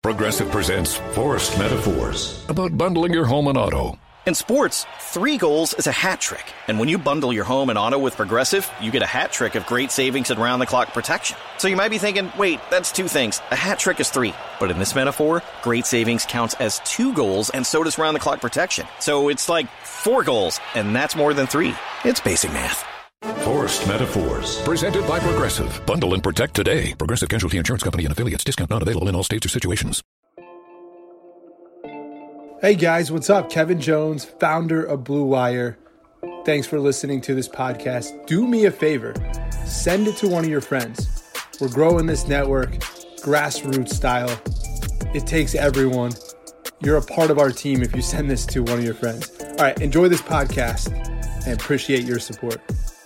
Progressive presents Forced Metaphors about bundling your home and auto. In sports, 3 goals is a hat trick. And when you bundle your home and auto with Progressive, you get a hat trick of great savings and round-the-clock protection. So you might be thinking, wait, that's 2 things. A hat trick is 3. But in this metaphor, great savings counts as 2 goals, and so does round-the-clock protection. So it's like 4 goals, and that's more than 3. It's basic math. Forced Metaphors. Presented by Progressive. Bundle and protect today. Progressive Casualty Insurance Company and affiliates. Discount not available in all states or situations. Hey guys, what's up? Kevin Jones, founder of Blue Wire. Thanks for listening to this podcast. Do me a favor. Send it to one of your friends. We're growing this network, grassroots style. It takes everyone. You're a part of our team if you send this to one of your friends. All right, enjoy this podcast and appreciate your support.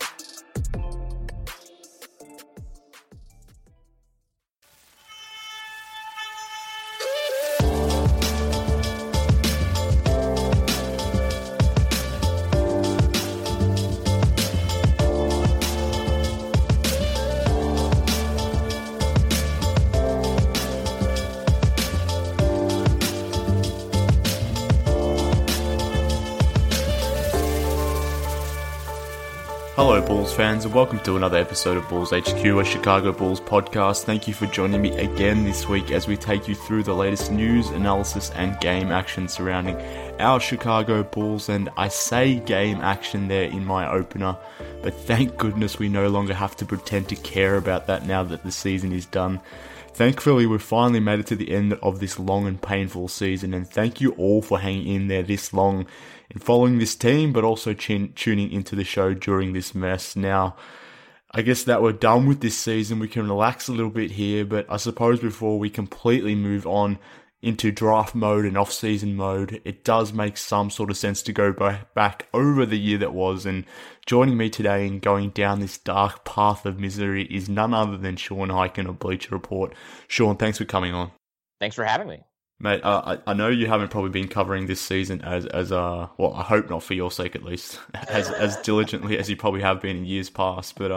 Hello Bulls fans and welcome to another episode of Bulls HQ, a Chicago Bulls podcast. Thank you for joining me again this week as we take you through the latest news, analysis and game action surrounding our Chicago Bulls. And I say game action there in my opener, but thank goodness we no longer have to pretend to care about that now that the season is done. Thankfully, we've finally made it to the end of this long and painful season, and thank you all for hanging in there this long in following this team, but also tuning into the show during this mess. Now, I guess that we're done with this season, we can relax a little bit here, but I suppose before we completely move on into draft mode and off-season mode, it does make some sort of sense to go back over the year that was. And joining me today in going down this dark path of misery is none other than Sean Highkin of Bleacher Report. Sean, thanks for coming on. Thanks for having me. Mate, I know you haven't probably been covering this season as well, I hope not for your sake at least, as diligently as you probably have been in years past. But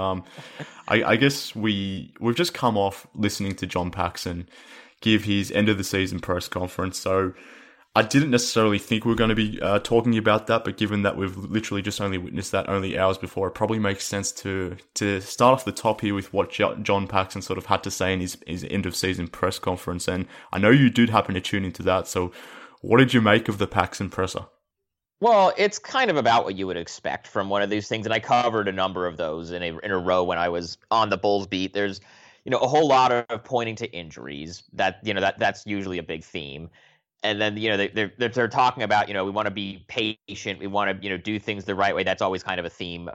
I guess we've just come off listening to John Paxson give his end of the season press conference. So I didn't necessarily think we were going to be talking about that, but given that we've literally just only witnessed that only hours before, it probably makes sense to start off the top here with what John Paxson sort of had to say in his end of season press conference. And I know you did happen to tune into that. So what did you make of the Paxson presser? Well, it's kind of about what you would expect from one of these things, and I covered a number of those in a row when I was on the Bulls beat. There's a whole lot of pointing to injuries. That's usually a big theme. And then, they're talking about, we want to be patient. We want to, do things the right way. That's always kind of a theme.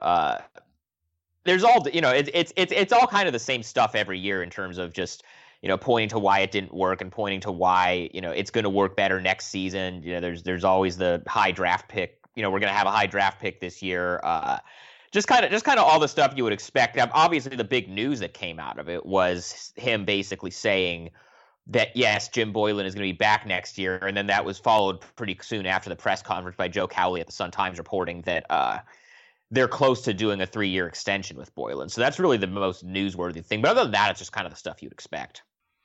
There's all, it's all kind of the same stuff every year in terms of just, pointing to why it didn't work and pointing to why, it's going to work better next season. There's always the high draft pick. We're going to have a high draft pick this year. Just kind of all the stuff you would expect. Obviously, the big news that came out of it was him basically saying that, yes, Jim Boylen is going to be back next year. And then that was followed pretty soon after the press conference by Joe Cowley at the Sun-Times reporting that they're close to doing a 3-year extension with Boylen. So that's really the most newsworthy thing. But other than that, it's just kind of the stuff you'd expect.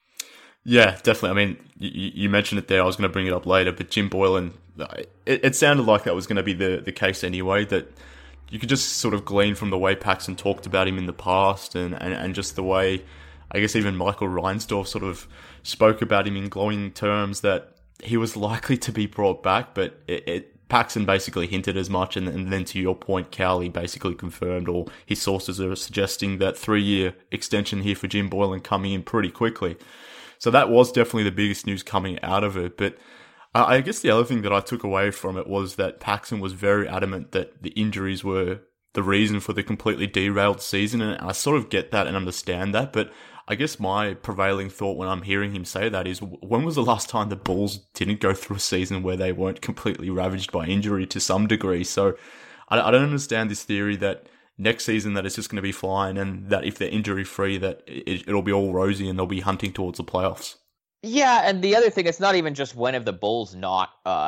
Yeah, definitely. I mean, you mentioned it there. I was going to bring it up later. But Jim Boylen, it sounded like that was going to be the case anyway, that you could just sort of glean from the way Paxson talked about him in the past and just the way, I guess even Michael Reinsdorf sort of spoke about him in glowing terms that he was likely to be brought back, but Paxson basically hinted as much, and then to your point, Cowley basically confirmed, or his sources are suggesting that 3-year extension here for Jim Boylen coming in pretty quickly. So that was definitely the biggest news coming out of it, but I guess the other thing that I took away from it was that Paxson was very adamant that the injuries were the reason for the completely derailed season, and I sort of get that and understand that, but I guess my prevailing thought when I'm hearing him say that is, when was the last time the Bulls didn't go through a season where they weren't completely ravaged by injury to some degree? So I don't understand this theory that next season that it's just going to be fine, and that if they're injury free that it'll be all rosy and they'll be hunting towards the playoffs. Yeah, and the other thing, it's not even just when have the Bulls not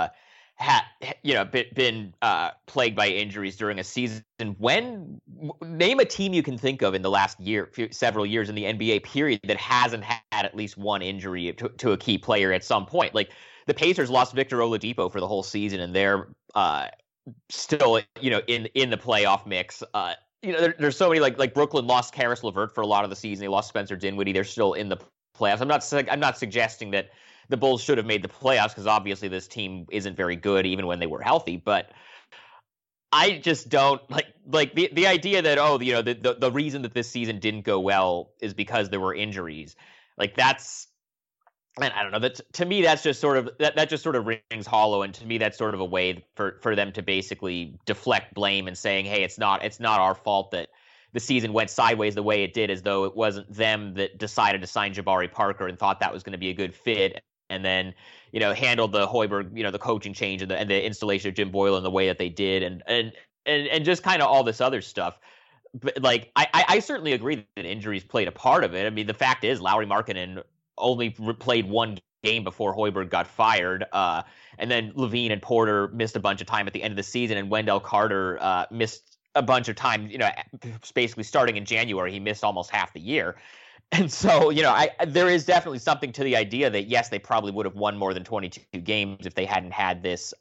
been plagued by injuries during a season. Name a team you can think of in the last several years in the NBA period that hasn't had had at least one injury to a key player at some point. Like the Pacers lost Victor Oladipo for the whole season, and they're still, in the playoff mix. There's so many like Brooklyn lost Karis LeVert for a lot of the season. They lost Spencer Dinwiddie. They're still in the playoffs. I'm not suggesting that the Bulls should have made the playoffs, because obviously this team isn't very good even when they were healthy. But I just don't like the idea that the reason that this season didn't go well is because there were injuries. Like that's. And I don't know. To me, that's just sort of that just sort of rings hollow, and to me, that's sort of a way for them to basically deflect blame and saying, "Hey, it's not our fault that the season went sideways the way it did," as though it wasn't them that decided to sign Jabari Parker and thought that was going to be a good fit, and then handled the Hoiberg, the coaching change and the installation of Jim Boylen the way that they did, and just kind of all this other stuff. But like, I certainly agree that injuries played a part of it. I mean, the fact is, Lauri Markkanen only played one game before Hoiberg got fired, and then Levine and Porter missed a bunch of time at the end of the season, and Wendell Carter missed a bunch of time. Basically starting in January, he missed almost half the year. And so, there is definitely something to the idea that yes, they probably would have won more than 22 games if they hadn't had this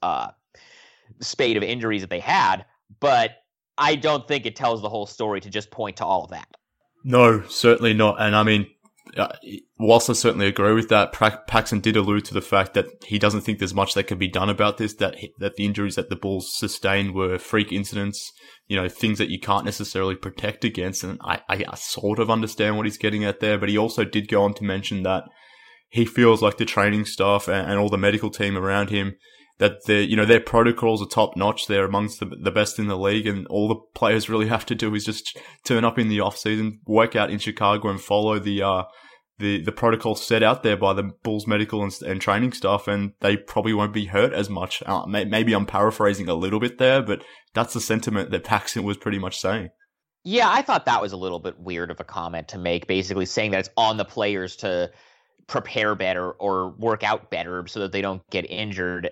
spate of injuries that they had. But I don't think it tells the whole story to just point to all of that. No, certainly not. And I mean, whilst I certainly agree with that, Paxson did allude to the fact that he doesn't think there's much that can be done about this, that the injuries that the Bulls sustained were freak incidents, things that you can't necessarily protect against. And I sort of understand what he's getting at there, but he also did go on to mention that he feels like the training staff and all the medical team around him, that their protocols are top notch. They're amongst the best in the league, and all the players really have to do is just turn up in the off season, work out in Chicago, and follow the protocol set out there by the Bulls medical and training staff, and they probably won't be hurt as much. Maybe I'm paraphrasing a little bit there, but that's the sentiment that Paxson was pretty much saying. Yeah, I thought that was a little bit weird of a comment to make, basically saying that it's on the players to prepare better or work out better so that they don't get injured.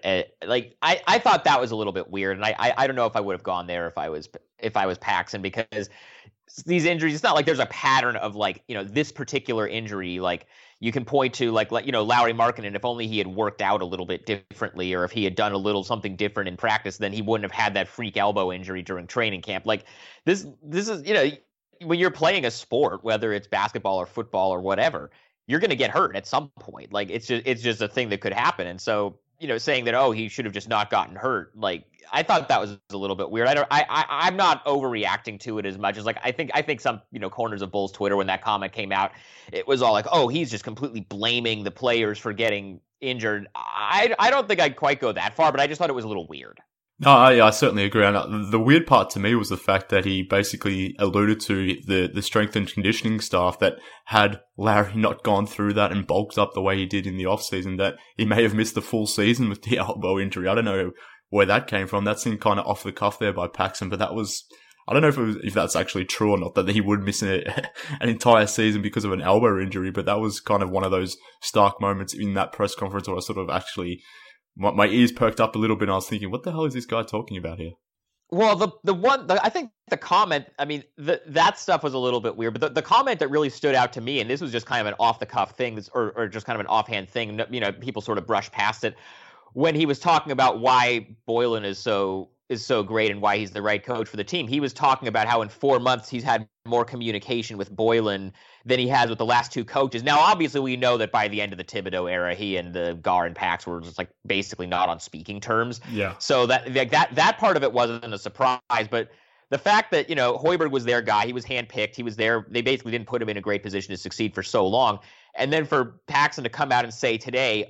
I thought that was a little bit weird, and I don't know if I would have gone there if I was Paxson, because these injuries, it's not like there's a pattern of this particular injury. Like you can point to Lauri Markkanen, if only he had worked out a little bit differently, or if he had done a little something different in practice, then he wouldn't have had that freak elbow injury during training camp. Like this is, when you're playing a sport, whether it's basketball or football or whatever, you're going to get hurt at some point. Like it's just a thing that could happen. And so, saying that, he should have just not gotten hurt. Like I thought that was a little bit weird. I'm not overreacting to it as much as I think some, corners of Bulls Twitter, when that comment came out, it was all like, he's just completely blaming the players for getting injured. I don't think I'd quite go that far, but I just thought it was a little weird. No, I certainly agree. And the weird part to me was the fact that he basically alluded to the strength and conditioning staff that had Larry not gone through that and bulked up the way he did in the offseason, that he may have missed the full season with the elbow injury. I don't know where that came from. That seemed kind of off the cuff there by Paxson, but that was, I don't know if that's actually true or not, that he would miss an entire season because of an elbow injury, but that was kind of one of those stark moments in that press conference where I sort of actually, my ears perked up a little bit and I was thinking, what the hell is this guy talking about here? Well, I think the comment, I mean, that stuff was a little bit weird, but the comment that really stood out to me, and this was just kind of an off-the-cuff thing, or just kind of an offhand thing, people sort of brushed past it, when he was talking about why Boylen is so great and why he's the right coach for the team. He was talking about how in 4 months he's had more communication with Boylen than he has with the last two coaches. Now, obviously, we know that by the end of the Thibodeau era, he and the Gar and Pax were just basically not on speaking terms. Yeah. So that part of it wasn't a surprise, but the fact that Hoiberg was their guy, he was handpicked, he was there. They basically didn't put him in a great position to succeed for so long, and then for Paxson to come out and say today,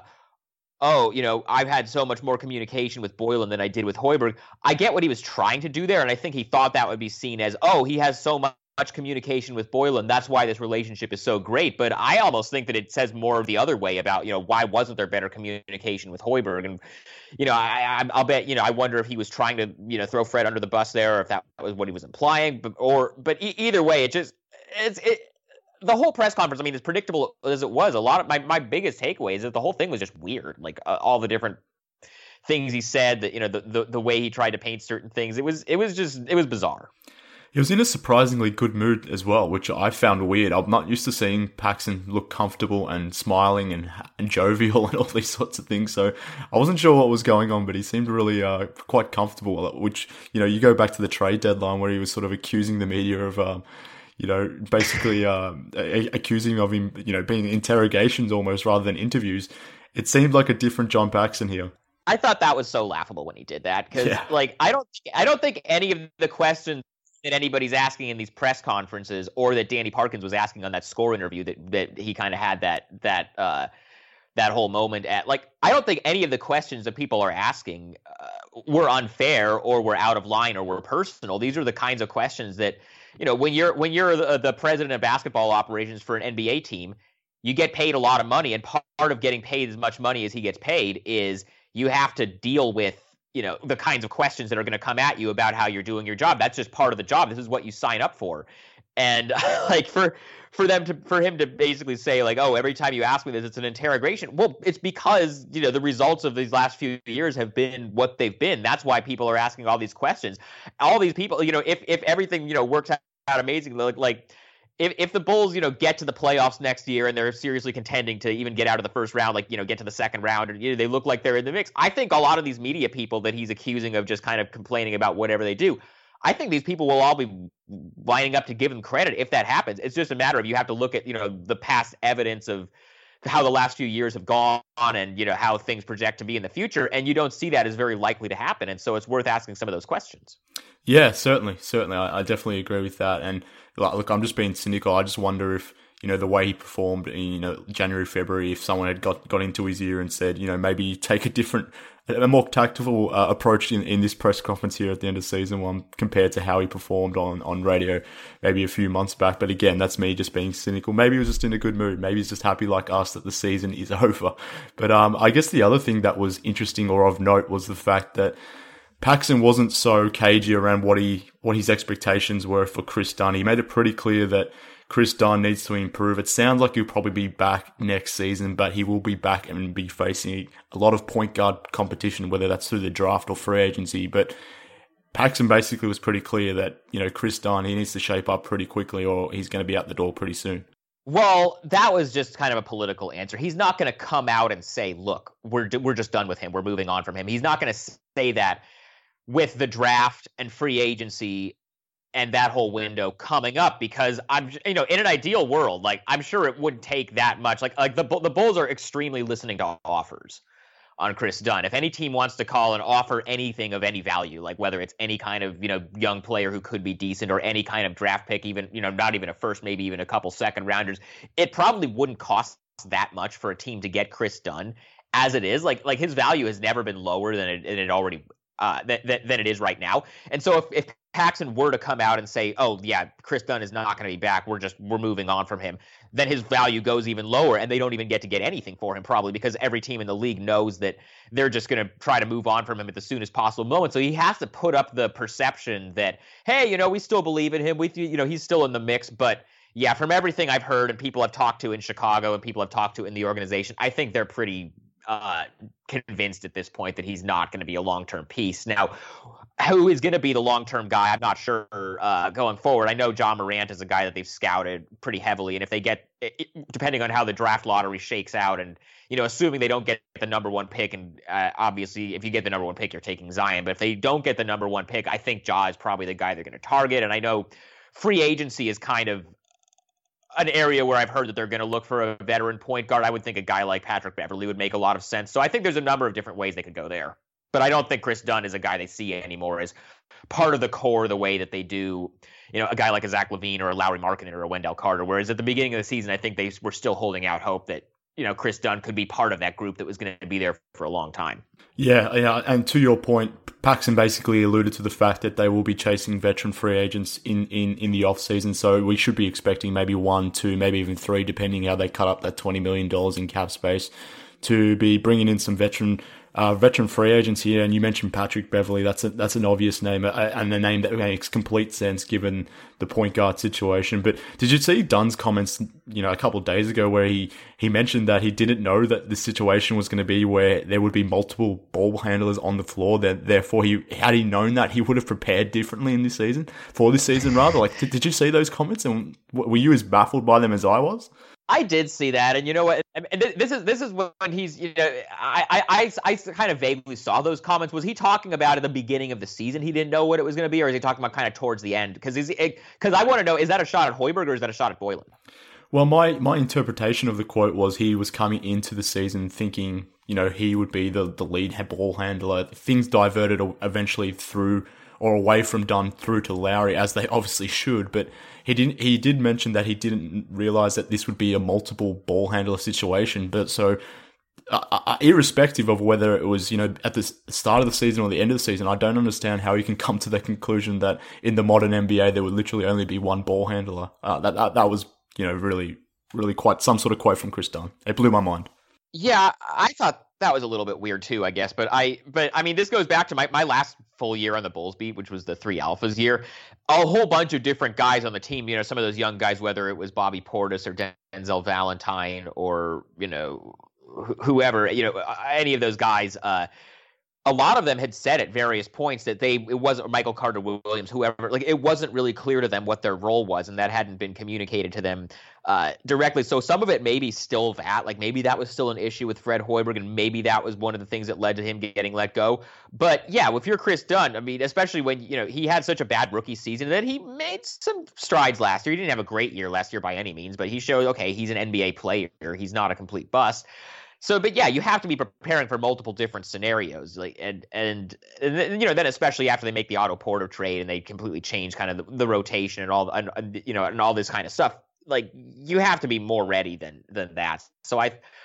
I've had so much more communication with Boylen than I did with Hoiberg. I get what he was trying to do there, and I think he thought that would be seen as, he has so much communication with Boylen, that's why this relationship is so great. But I almost think that it says more of the other way about, why wasn't there better communication with Hoiberg? And, I'll bet, I wonder if he was trying to, throw Fred under the bus there, or if that was what he was implying. But either way, the whole press conference, I mean, as predictable as it was, a lot of my biggest takeaway is that the whole thing was just weird. Like all the different things he said, that the way he tried to paint certain things, it was bizarre. He was in a surprisingly good mood as well, which I found weird. I'm not used to seeing Paxson look comfortable and smiling and jovial and all these sorts of things. So I wasn't sure what was going on, but he seemed really quite comfortable, which, you go back to the trade deadline where he was sort of accusing the media of, basically accusing of him, being interrogations almost rather than interviews. It seemed like a different John Paxson here. I thought that was so laughable when he did that because, I don't think any of the questions that anybody's asking in these press conferences, or that Danny Parkins was asking on that score interview that he kind of had that whole moment at. Like, I don't think any of the questions that people are asking were unfair or were out of line or were personal. These are the kinds of questions that, when you're the president of basketball operations for an NBA team, you get paid a lot of money, and part of getting paid as much money as he gets paid is you have to deal with, the kinds of questions that are going to come at you about how you're doing your job. That's just part of the job. This is what you sign up for. And like for him to basically say like, oh, every time you ask me this, it's an interrogation. Well, it's because, the results of these last few years have been what they've been. That's why people are asking all these questions. All these people, if everything, works out amazingly, like if the Bulls, get to the playoffs next year and they're seriously contending to even get out of the first round, like, get to the second round, or they look like they're in the mix. I think a lot of these media people that he's accusing of just kind of complaining about whatever they do, I think these people will all be lining up to give him credit if that happens. It's just a matter of you have to look at, the past evidence of how the last few years have gone and, how things project to be in the future. And you don't see that as very likely to happen. And so it's worth asking some of those questions. Yeah, certainly. I definitely agree with that. And look, I'm just being cynical. I just wonder if, the way he performed in, January, February, if someone had got into his ear and said, maybe take a more tactful approach in this press conference here at the end of season one compared to how he performed on radio maybe a few months back. But again, that's me just being cynical. Maybe he was just in a good mood. Maybe he's just happy like us that the season is over. But I guess the other thing that was interesting or of note was the fact that Paxson wasn't so cagey around what his expectations were for Chris Dunn. He made it pretty clear that Chris Dunn needs to improve. It sounds like he'll probably be back next season, but he will be back and be facing a lot of point guard competition, whether that's through the draft or free agency. But Paxson basically was pretty clear that, Chris Dunn, he needs to shape up pretty quickly or he's going to be out the door pretty soon. Well, that was just kind of a political answer. He's not going to come out and say, look, we're just done with him. We're moving on from him. He's not going to say that with the draft and free agency and that whole window coming up, because I'm, in an ideal world, like I'm sure it wouldn't take that much. Like the Bulls are extremely listening to offers on Chris Dunn. If any team wants to call and offer anything of any value, like whether it's any kind of, young player who could be decent or any kind of draft pick, even, not even a first, maybe even a couple second rounders, it probably wouldn't cost that much for a team to get Chris Dunn as it is. Like his value has never been lower than it already than it is right now. And so if Paxson were to come out and say, oh yeah, Chris Dunn is not going to be back, we're moving on from him, then his value goes even lower and they don't even get to get anything for him probably, because every team in the league knows that they're just going to try to move on from him at the soonest possible moment. So he has to put up the perception that, hey, we still believe in him. He's still in the mix. But yeah, from everything I've heard and people I've talked to in Chicago and people I've talked to in the organization, I think they're pretty convinced at this point that he's not going to be a long-term piece. Now, who is going to be the long-term guy, I'm not sure going forward. I know John Morant is a guy that they've scouted pretty heavily, and if they get, depending on how the draft lottery shakes out, and assuming they don't get the number one pick, and obviously if you get the number one pick, you're taking Zion, but if they don't get the number one pick, I think Ja is probably the guy they're going to target. And I know free agency is kind of an area where I've heard that they're going to look for a veteran point guard. I would think a guy like Patrick Beverley would make a lot of sense. So I think there's a number of different ways they could go there. But I don't think Chris Dunn is a guy they see anymore as part of the core the way that they do, a guy like a Zach LaVine or a Lauri Markkanen or a Wendell Carter. Whereas at the beginning of the season, I think they were still holding out hope that, Chris Dunn could be part of that group that was going to be there for a long time. Yeah, and to your point, Paxson basically alluded to the fact that they will be chasing veteran free agents in the offseason, so we should be expecting maybe 1, 2, maybe even 3, depending how they cut up that $20 million in cap space to be bringing in some veteran free agents here, and you mentioned Patrick Beverley. That's an obvious name, and a name that makes complete sense given the point guard situation. But did you see Dunn's comments, a couple of days ago, where he mentioned that he didn't know that the situation was going to be where there would be multiple ball handlers on the floor. Therefore, had he known that, he would have prepared differently for this season rather. Like, did you see those comments, and were you as baffled by them as I was? I did see that, and you know what? And this is when he's, I kind of vaguely saw those comments. Was he talking about at the beginning of the season he didn't know what it was going to be, or is he talking about kind of towards the end? Because I want to know, is that a shot at Hoiberg or is that a shot at Boylen? Well, my interpretation of the quote was he was coming into the season thinking, he would be the lead ball handler. Things diverted eventually through or away from Dunn through to Lowry, as they obviously should, but he did mention that he didn't realize that this would be a multiple ball handler situation. But so, irrespective of whether it was, at the start of the season or the end of the season, I don't understand how you can come to the conclusion that in the modern NBA there would literally only be one ball handler. That was, really, really quite some sort of quote from Chris Dunn. It blew my mind. Yeah, I thought that was a little bit weird too, I guess. But I mean, this goes back to my last full year on the Bulls beat, which was the 3 Alphas year. A whole bunch of different guys on the team, some of those young guys, whether it was Bobby Portis or Denzel Valentine or, whoever, any of those guys, a lot of them had said at various points that it wasn't Michael Carter Williams, whoever, like it wasn't really clear to them what their role was, and that hadn't been communicated to them directly. So some of it maybe still like maybe that was still an issue with Fred Hoiberg, and maybe that was one of the things that led to him getting let go. But yeah, if you're Chris Dunn, I mean, especially when he had such a bad rookie season, that he made some strides last year. He didn't have a great year last year by any means, but he showed, okay, he's an NBA player. He's not a complete bust. So, but yeah, you have to be preparing for multiple different scenarios, like and then especially after they make the Otto Porter trade and they completely change kind of the rotation and all and all this kind of stuff. Like you have to be more ready than that. So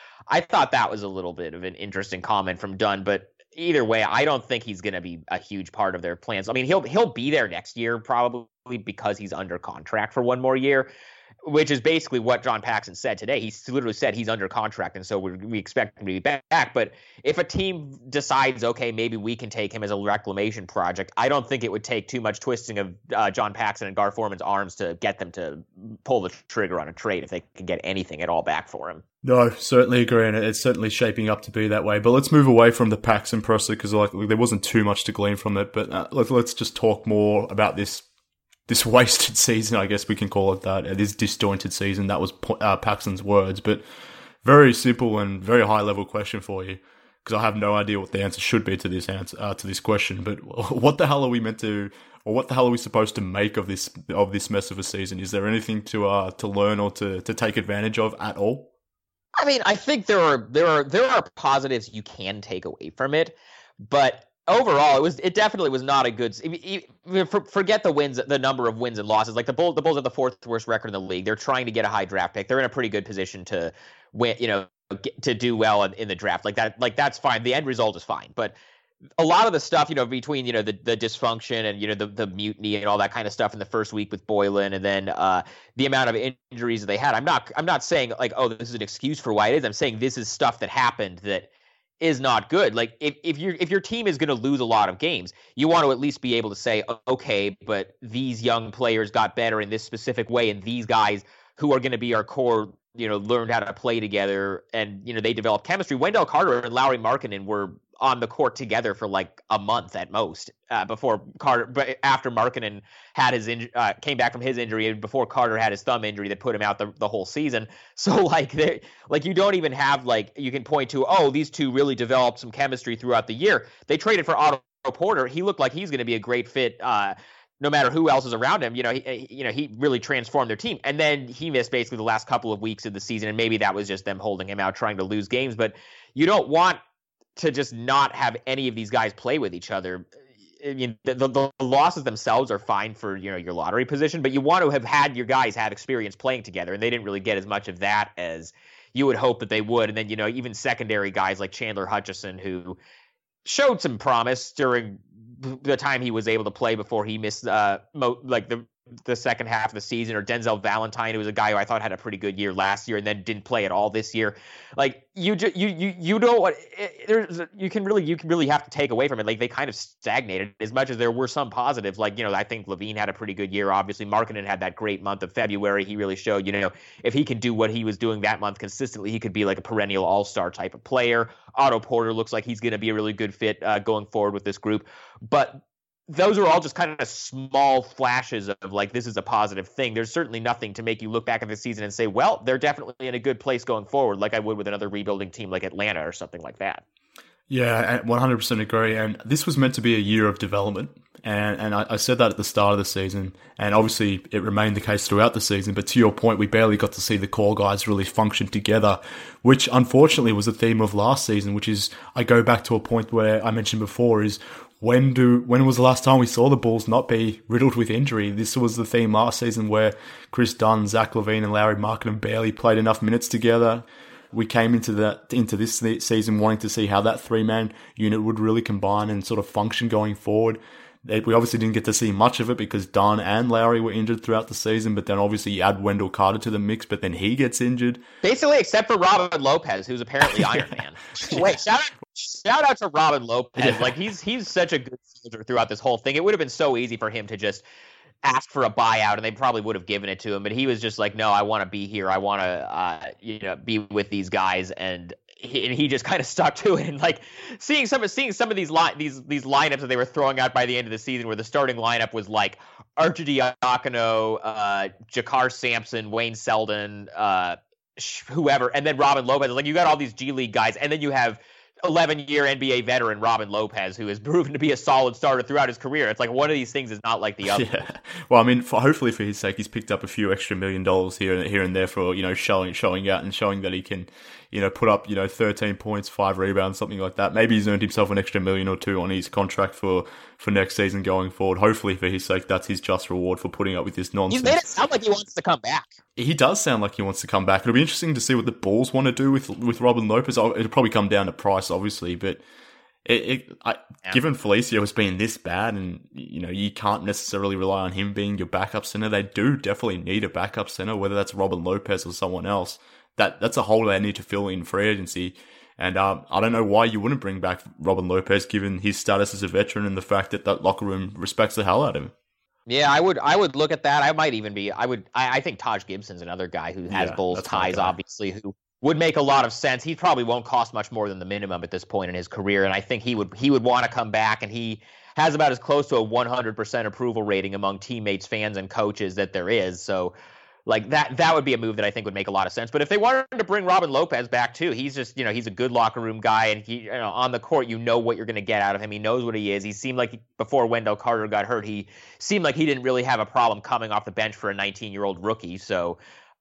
I thought that was a little bit of an interesting comment from Dunn, but either way, I don't think he's going to be a huge part of their plans. I mean, he'll be there next year probably because he's under contract for one more year, which is basically what John Paxson said today. He literally said he's under contract, and so we expect him to be back. But if a team decides, okay, maybe we can take him as a reclamation project, I don't think it would take too much twisting of John Paxson and Gar Forman's arms to get them to pull the trigger on a trade if they can get anything at all back for him. No, certainly agree, and it's certainly shaping up to be that way. But let's move away from the Paxson process because there wasn't too much to glean from it. But let's just talk more about this wasted season, I guess we can call it that. This disjointed season. That was Paxson's words, but very simple and very high level question for you because I have no idea what the answer should be to this question. But what the hell are we meant to, or what the hell are we supposed to make of this mess of a season? Is there anything to learn or to take advantage of at all? I mean, I think there are positives you can take away from it, but overall, it definitely was not a good. Forget the wins, the number of wins and losses. Like the Bulls have the 4th worst record in the league. They're trying to get a high draft pick. They're in a pretty good position to win. To do well in the draft. Like that. Like that's fine. The end result is fine. But a lot of the stuff, between the dysfunction and the mutiny and all that kind of stuff in the first week with Boylen, and then the amount of injuries that they had. I'm not saying like, oh, this is an excuse for why it is. I'm saying this is stuff that happened that is not good. Like if your team is going to lose a lot of games, you want to at least be able to say, okay, but these young players got better in this specific way, and these guys who are going to be our core, learned how to play together, and they developed chemistry. Wendell Carter and Lauri Markkanen were on the court together for like a month at most before Carter, but after Markkanen had his came back from his injury, and before Carter had his thumb injury that put him out the whole season. So like you don't even have like you can point to, oh, these two really developed some chemistry throughout the year. They traded for Otto Porter. He looked like he's going to be a great fit. No matter who else is around him, he really transformed their team. And then he missed basically the last couple of weeks of the season, and maybe that was just them holding him out, trying to lose games. But you don't want to just not have any of these guys play with each other. I mean, the losses themselves are fine for your lottery position, but you want to have had your guys have experience playing together, and they didn't really get as much of that as you would hope that they would. And then even secondary guys like Chandler Hutchison, who showed some promise during the time he was able to play before he missed the the second half of the season, or Denzel Valentine, who was a guy who I thought had a pretty good year last year and then didn't play at all this year. Like you know what, you can really have to take away from it. Like they kind of stagnated as much as there were some positives. Like, I think Levine had a pretty good year. Obviously, Markkanen had that great month of February. He really showed, if he can do what he was doing that month consistently, he could be like a perennial all-star type of player. Otto Porter looks like he's going to be a really good fit going forward with this group. But those are all just kind of small flashes of like, this is a positive thing. There's certainly nothing to make you look back at the season and say, well, they're definitely in a good place going forward, like I would with another rebuilding team like Atlanta or something like that. Yeah, I 100% agree. And this was meant to be a year of development. And I said that at the start of the season. And obviously it remained the case throughout the season. But to your point, we barely got to see the core guys really function together, which unfortunately was the theme of last season, which is, I go back to a point where I mentioned before, is when was the last time we saw the Bulls not be riddled with injury? This was the theme last season where Chris Dunn, Zach LaVine, and Lauri Markkanen barely played enough minutes together. We came into this season wanting to see how that three-man unit would really combine and sort of function going forward. We obviously didn't get to see much of it because Dunn and Lowry were injured throughout the season, but then obviously you add Wendell Carter to the mix, but then he gets injured. Basically, except for Robin Lopez, who's apparently Iron Man. Wait, shout out to Robin Lopez. Yeah. Like he's such a good soldier throughout this whole thing. It would have been so easy for him to just ask for a buyout, and they probably would have given it to him. But he was just like, no, I want to be here. I want to be with these guys, and he just kind of stuck to it. And like seeing some of these lineups that they were throwing out by the end of the season, where the starting lineup was like Arcidiacono, Jakar Sampson, Wayne Selden, whoever, and then Robin Lopez. Like you got all these G League guys, and then you have 11-year NBA veteran Robin Lopez, who has proven to be a solid starter throughout his career. It's like one of these things is not like the other. Yeah. Well, I mean, hopefully for his sake, he's picked up a few extra $1 million here and there for showing out and showing that he can put up 13 points, 5 rebounds, something like that. Maybe he's earned himself an extra $1 million or $2 million on his contract for next season going forward. Hopefully for his sake, that's his just reward for putting up with this nonsense. He's made it sound like he wants to come back. He does sound like he wants to come back. It'll be interesting to see what the Bulls want to do with Robin Lopez. It'll probably come down to price, obviously, but given Felicio has been this bad, and you can't necessarily rely on him being your backup center, they do definitely need a backup center, whether that's Robin Lopez or someone else. That's a hole they need to fill in free agency. And I don't know why you wouldn't bring back Robin Lopez, given his status as a veteran and the fact that locker room respects the hell out of him. Yeah, I would look at that. I think Taj Gibson's another guy who has Bulls ties, obviously, who would make a lot of sense. He probably won't cost much more than the minimum at this point in his career, and I think he would want to come back, and he has about as close to a 100% approval rating among teammates, fans, and coaches that there is. So like that would be a move that I think would make a lot of sense. But if they wanted to bring Robin Lopez back too, he's just, he's a good locker room guy, and he, on the court, what you're going to get out of him. He knows what he is. He seemed like before Wendell Carter got hurt, he seemed like he didn't really have a problem coming off the bench for a 19-year-old rookie. So,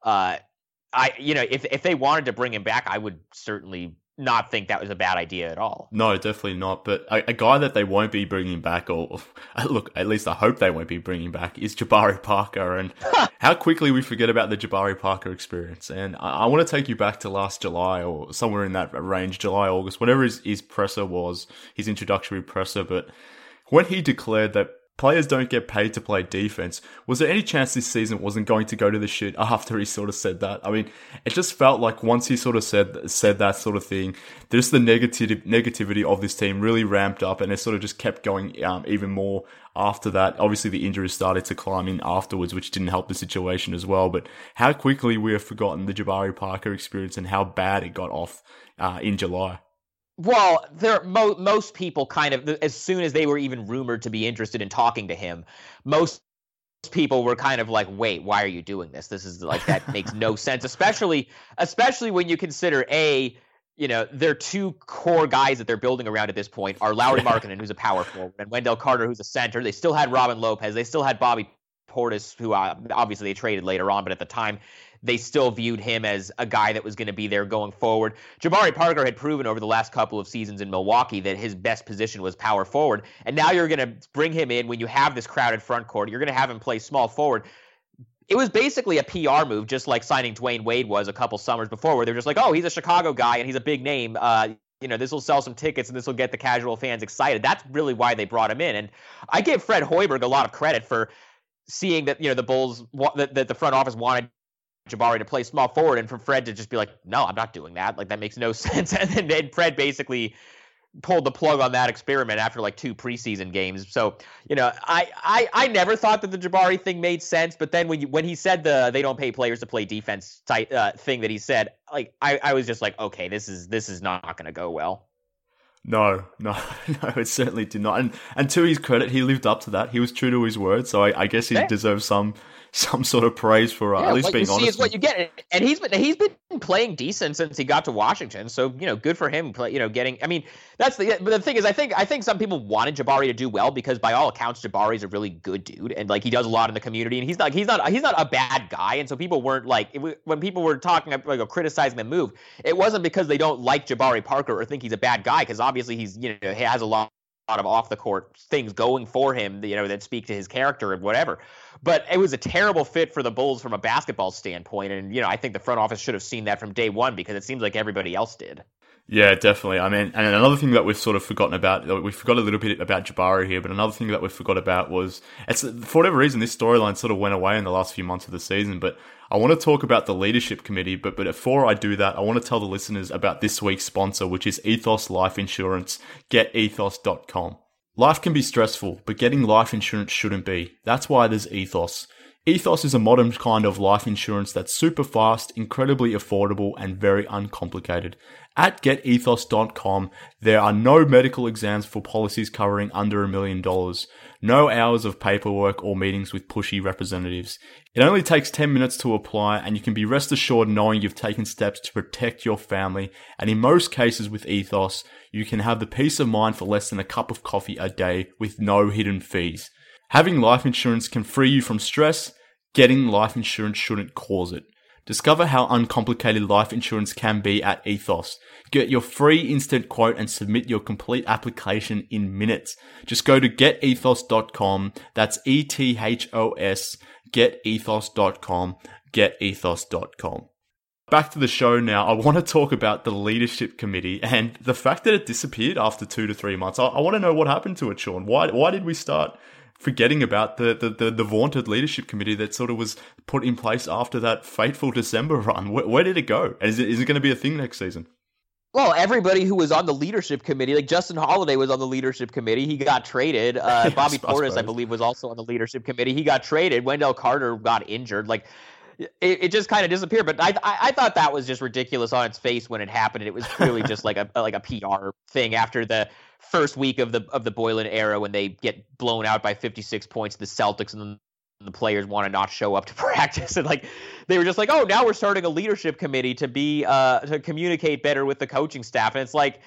if they wanted to bring him back, I would certainly not think that was a bad idea at all. No, definitely not. But a guy that they won't be bringing back, or look, at least I hope they won't be bringing back, is Jabari Parker. And how quickly we forget about the Jabari Parker experience. And I want to take you back to last July, or somewhere in that range, July, August, whatever his presser was, his introductory presser. But when he declared that players don't get paid to play defense, was there any chance this season wasn't going to go to the shit after he sort of said that? I mean, it just felt like once he sort of said that sort of thing, just the negativity of this team really ramped up, and it sort of just kept going even more after that. Obviously, the injuries started to climb in afterwards, which didn't help the situation as well. But how quickly we have forgotten the Jabari Parker experience and how bad it got off in July. Well, most people kind of, as soon as they were even rumored to be interested in talking to him, most people were kind of like, wait, why are you doing this? This is like, that makes no sense, especially when you consider their two core guys that they're building around at this point are Lauri Markkanen, who's a power forward, and Wendell Carter, who's a center. They still had Robin Lopez. They still had Bobby Portis, who obviously they traded later on, but at the time they still viewed him as a guy that was going to be there going forward. Jabari Parker had proven over the last couple of seasons in Milwaukee that his best position was power forward, and now you're going to bring him in when you have this crowded front court. You're going to have him play small forward. It was basically a PR move, just like signing Dwayne Wade was a couple summers before, where they're just like, oh, he's a Chicago guy and he's a big name. This will sell some tickets and this will get the casual fans excited. That's really why they brought him in. And I give Fred Hoiberg a lot of credit for seeing that, the Bulls, that the front office wanted Jabari to play small forward, and for Fred to just be like, no, I'm not doing that. Like, that makes no sense. And then Fred basically pulled the plug on that experiment after like 2 preseason games. So, I never thought that the Jabari thing made sense, but then when he said they don't pay players to play defense type thing that he said, like, I was just like, okay, this is not going to go well. No, it certainly did not. And to his credit, he lived up to that. He was true to his word, so I guess he deserves some sort of praise for at least being honest. What you see is what you get, and he's been playing decent since he got to Washington. So good for him. Getting. I mean, but the thing is, I think some people wanted Jabari to do well because by all accounts, Jabari's a really good dude, and like he does a lot in the community, and he's not a bad guy. And so people weren't like, when people were talking like criticizing the move, it wasn't because they don't like Jabari Parker or think he's a bad guy, because obviously he's he has a lot of off the court things going for him, that speak to his character and whatever. But it was a terrible fit for the Bulls from a basketball standpoint, and I think the front office should have seen that from day one, because it seems like everybody else did. Yeah, definitely. I mean, and another thing that we've sort of forgotten about, we forgot a little bit about Jabari here, but another thing that we forgot about was, for whatever reason, this storyline sort of went away in the last few months of the season, but I want to talk about the leadership committee, but before I do that, I want to tell the listeners about this week's sponsor, which is Ethos Life Insurance. GetEthos.com. Life can be stressful, but getting life insurance shouldn't be. That's why there's Ethos. Ethos is a modern kind of life insurance that's super fast, incredibly affordable, and very uncomplicated. At GetEthos.com, there are no medical exams for policies covering under $1 million, no hours of paperwork or meetings with pushy representatives. It only takes 10 minutes to apply, and you can be rest assured knowing you've taken steps to protect your family, and in most cases with Ethos, you can have the peace of mind for less than a cup of coffee a day with no hidden fees. Having life insurance can free you from stress. Getting life insurance shouldn't cause it. Discover how uncomplicated life insurance can be at Ethos. Get your free instant quote and submit your complete application in minutes. Just go to getethos.com. That's ETHOS. Getethos.com. Getethos.com. Back to the show now. I want to talk about the leadership committee and the fact that it disappeared after 2 to 3 months. I want to know what happened to it, Sean. Why did we start forgetting about the vaunted leadership committee that sort of was put in place after that fateful December run? Where did it go? And is it going to be a thing next season? Well, everybody who was on the leadership committee, like Justin Holiday was on the leadership committee. He got traded. Bobby Portis, I believe, was also on the leadership committee. He got traded. Wendell Carter got injured. Like, it just kind of disappeared. But I thought that was just ridiculous on its face when it happened. It was clearly just like a PR thing after the first week of the Boylen era, when they get blown out by 56 points, the Celtics, and the players want to not show up to practice, and like they were just like, oh, now we're starting a leadership committee to be to communicate better with the coaching staff. And it's like,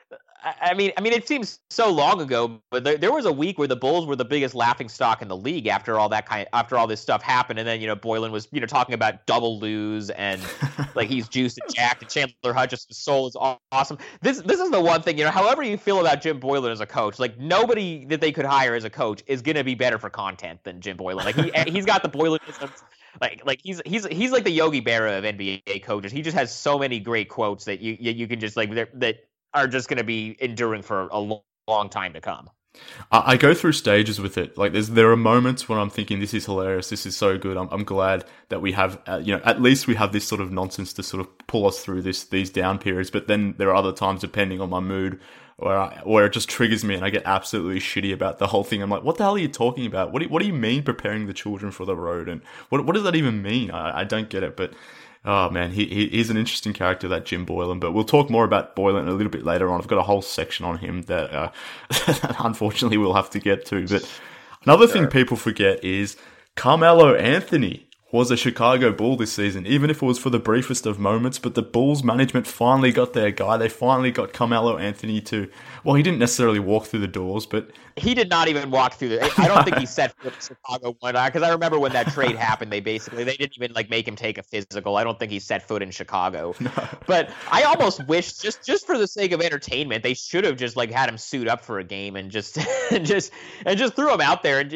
I mean, it seems so long ago, but there was a week where the Bulls were the biggest laughingstock in the league after all this stuff happened, and then Boylen was talking about double lose and like he's juiced and jacked, and Chandler Hutchison's soul is awesome. This is the one thing, however you feel about Jim Boylen as a coach, like nobody that they could hire as a coach is gonna be better for content than Jim Boylen. Like he's got the Boylenisms. Like he's like the Yogi Berra of NBA coaches. He just has so many great quotes that you can just like that are just going to be enduring for a long time to come. I go through stages with it. Like there are moments when I'm thinking, this is hilarious, this is so good. I'm glad that we have, at least we have this sort of nonsense to sort of pull us through these down periods. But then there are other times, depending on my mood, where it just triggers me and I get absolutely shitty about the whole thing. I'm like, what the hell are you talking about? What do you mean preparing the children for the road? And what does that even mean? I don't get it. But oh man, he's an interesting character, that Jim Boylen. But we'll talk more about Boylen a little bit later on. I've got a whole section on him that unfortunately we'll have to get to. But another thing people forget is Carmelo Anthony was a Chicago Bull this season, even if it was for the briefest of moments. But the Bulls management finally got their guy. They finally got Carmelo Anthony to, well, he didn't necessarily walk through the doors, but he did not even walk through I don't think he set foot in Chicago one night, because I remember when that trade happened, they didn't even like make him take a physical. I don't think he set foot in Chicago. No. But I almost wish, just for the sake of entertainment, they should have just like had him suit up for a game and just threw him out there, and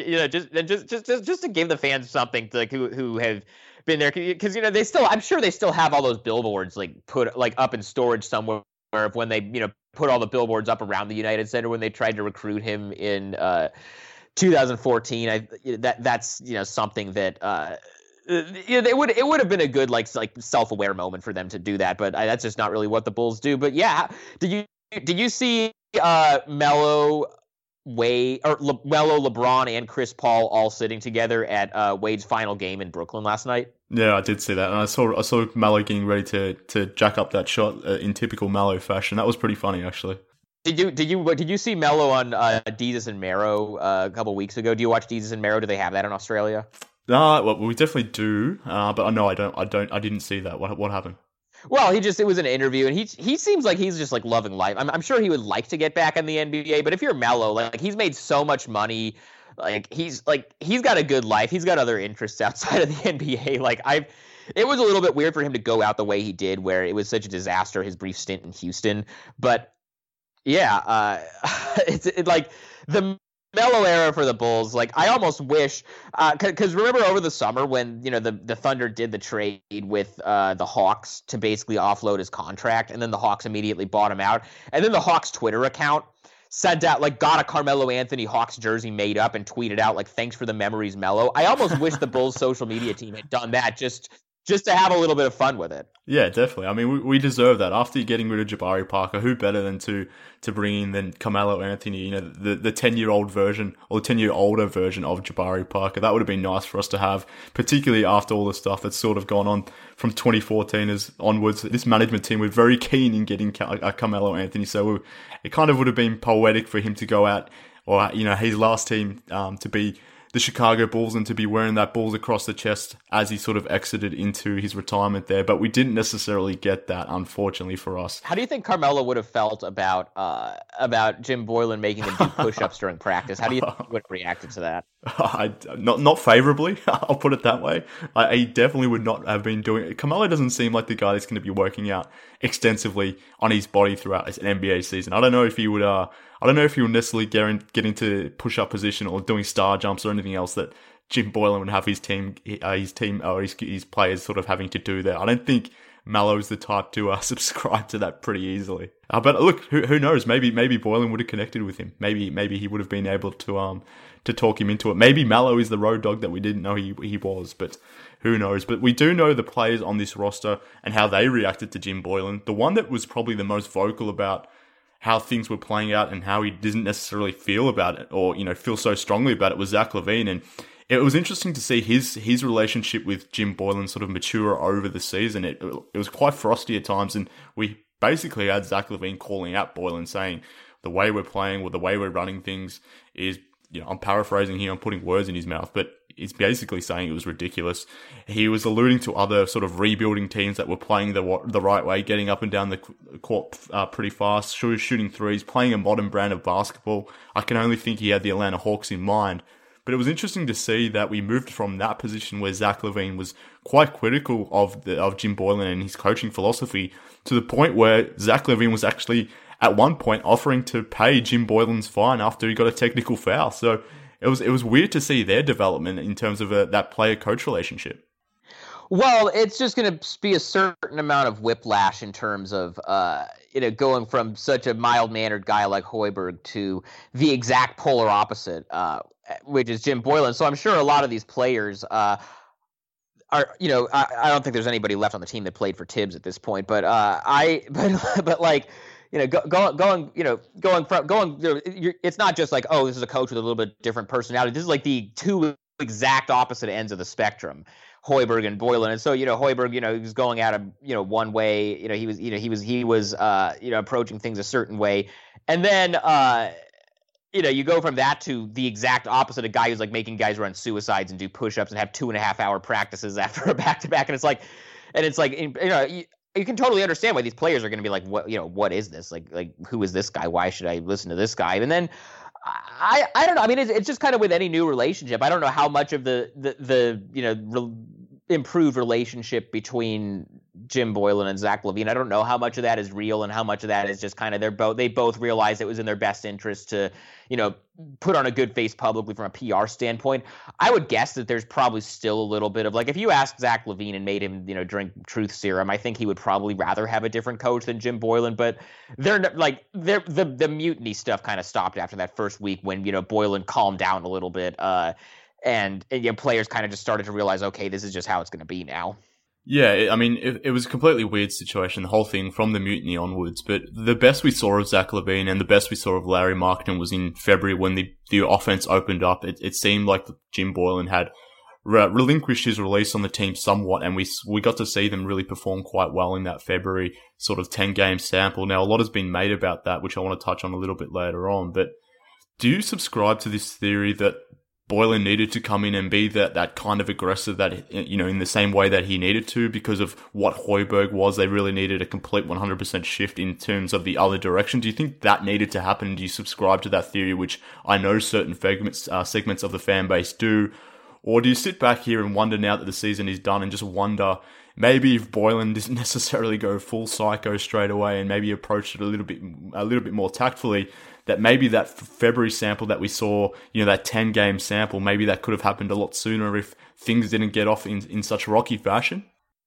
just to give the fans something to, like, who have been there, because I'm sure they still have all those billboards like put like up in storage somewhere of when they put all the billboards up around the United Center when they tried to recruit him in 2014. That's something that it would have been a good like self-aware moment for them to do that, but that's just not really what the Bulls do. But yeah, did you see Melo, Wade, or Melo, LeBron, and Chris Paul all sitting together at Wade's final game in Brooklyn last night? Yeah, I did see that, and I saw Melo getting ready to jack up that shot in typical Melo fashion. That was pretty funny, actually. Did you see Melo on Desus and Mero a couple weeks ago? Do you watch Desus and Mero? Do they have that in Australia? Well, we definitely do, but no, I don't. I didn't see that. What happened? Well, it was an interview, and he seems like he's just like loving life. I'm sure he would like to get back in the NBA, but if you're Melo, like he's made so much money, he's got a good life. He's got other interests outside of the NBA. It was a little bit weird for him to go out the way he did, where it was such a disaster, his brief stint in Houston. But yeah, it's like the Melo era for the Bulls. Like, I almost wish, because remember over the summer when the Thunder did the trade with the Hawks to basically offload his contract, and then the Hawks immediately bought him out, and then the Hawks Twitter account sent out got a Carmelo Anthony Hawks jersey made up and tweeted out thanks for the memories, Melo. I almost wish the Bulls social media team had done that just to have a little bit of fun with it. Yeah, definitely. I mean, we deserve that. After getting rid of Jabari Parker, who better than to bring in than Carmelo Anthony, the 10-year-old version or the 10-year older version of Jabari Parker. That would have been nice for us to have, particularly after all the stuff that's sort of gone on from 2014 onwards. This management team were very keen in getting Carmelo Anthony, so it kind of would have been poetic for him to go out, or his last team to be the Chicago Bulls and to be wearing that Bulls across the chest as he sort of exited into his retirement there. But we didn't necessarily get that, unfortunately, for us. How do you think Carmelo would have felt about Jim Boylen making him do push-ups during practice? How do you think he would have reacted to that? Not favorably, I'll put it that way. He definitely would not have been doing it. Carmelo doesn't seem like the guy that's going to be working out extensively on his body throughout an NBA season. I don't know if he would necessarily get into push-up position or doing star jumps or anything else that Jim Boylen would have his team or his players sort of having to do there. I don't think Melo's the type to subscribe to that pretty easily. But look, who knows? Maybe Boylen would have connected with him. Maybe he would have been able to talk him into it. Maybe Melo is the road dog that we didn't know he was, but who knows? But we do know the players on this roster and how they reacted to Jim Boylen. The one that was probably the most vocal about how things were playing out and how he didn't necessarily feel about it or, feel so strongly about it was Zach LaVine. And it was interesting to see his relationship with Jim Boylen sort of mature over the season. It was quite frosty at times, and we basically had Zach LaVine calling out Boylen, saying the way we're playing or the way we're running things is, I'm paraphrasing here, I'm putting words in his mouth, but he's basically saying it was ridiculous. He was alluding to other sort of rebuilding teams that were playing the right way, getting up and down the court pretty fast, shooting threes, playing a modern brand of basketball. I can only think he had the Atlanta Hawks in mind. But it was interesting to see that we moved from that position where Zach LaVine was quite critical of Jim Boylen and his coaching philosophy to the point where Zach LaVine was actually at one point offering to pay Jim Boylen's fine after he got a technical foul. So it was weird to see their development in terms of that player-coach relationship. Well, it's just going to be a certain amount of whiplash in terms of going from such a mild-mannered guy like Hoiberg to the exact polar opposite, which is Jim Boylen. So I'm sure a lot of these players are, I don't think there's anybody left on the team that played for Tibbs at this point, but it's not just like, oh, this is a coach with a little bit different personality. This is like the two exact opposite ends of the spectrum, Hoiberg and Boylen. And so, Hoiberg, he was going at him, one way, he was approaching things a certain way. And then, you go from that to the exact opposite, a guy who's like making guys run suicides and do push-ups and have 2.5-hour practices after a back-to-back. And it's like, you can totally understand why these players are going to be like, what is this? Like, who is this guy? Why should I listen to this guy? And then I don't know. I mean, it's just kind of with any new relationship. I don't know how much of the improved relationship between Jim Boylen and Zach LaVine. I don't know how much of that is real and how much of that is just kind of they both realized it was in their best interest to, put on a good face publicly from a PR standpoint. I would guess that there's probably still a little bit of if you asked Zach LaVine and made him, drink truth serum, I think he would probably rather have a different coach than Jim Boylen. But the mutiny stuff kind of stopped after that first week when, Boylen calmed down a little bit. And players kind of just started to realize, okay, this is just how it's going to be now. Yeah, it was a completely weird situation, the whole thing from the mutiny onwards. But the best we saw of Zach LaVine and the best we saw of Lauri Markkanen was in February when the offense opened up. It seemed like Jim Boylen had relinquished his release on the team somewhat, and we got to see them really perform quite well in that February sort of 10-game sample. Now, a lot has been made about that, which I want to touch on a little bit later on. But do you subscribe to this theory that Boylen needed to come in and be that kind of aggressive that, in the same way that he needed to because of what Højbjerg was? They really needed a complete 100% shift in terms of the other direction. Do you think that needed to happen? Do you subscribe to that theory, which I know certain segments of the fan base do? Or do you sit back here and wonder now that the season is done and just wonder maybe if Boylen didn't necessarily go full psycho straight away and maybe approached it a little bit more tactfully, that maybe that February sample that we saw, that 10-game sample, maybe that could have happened a lot sooner if things didn't get off in such rocky fashion?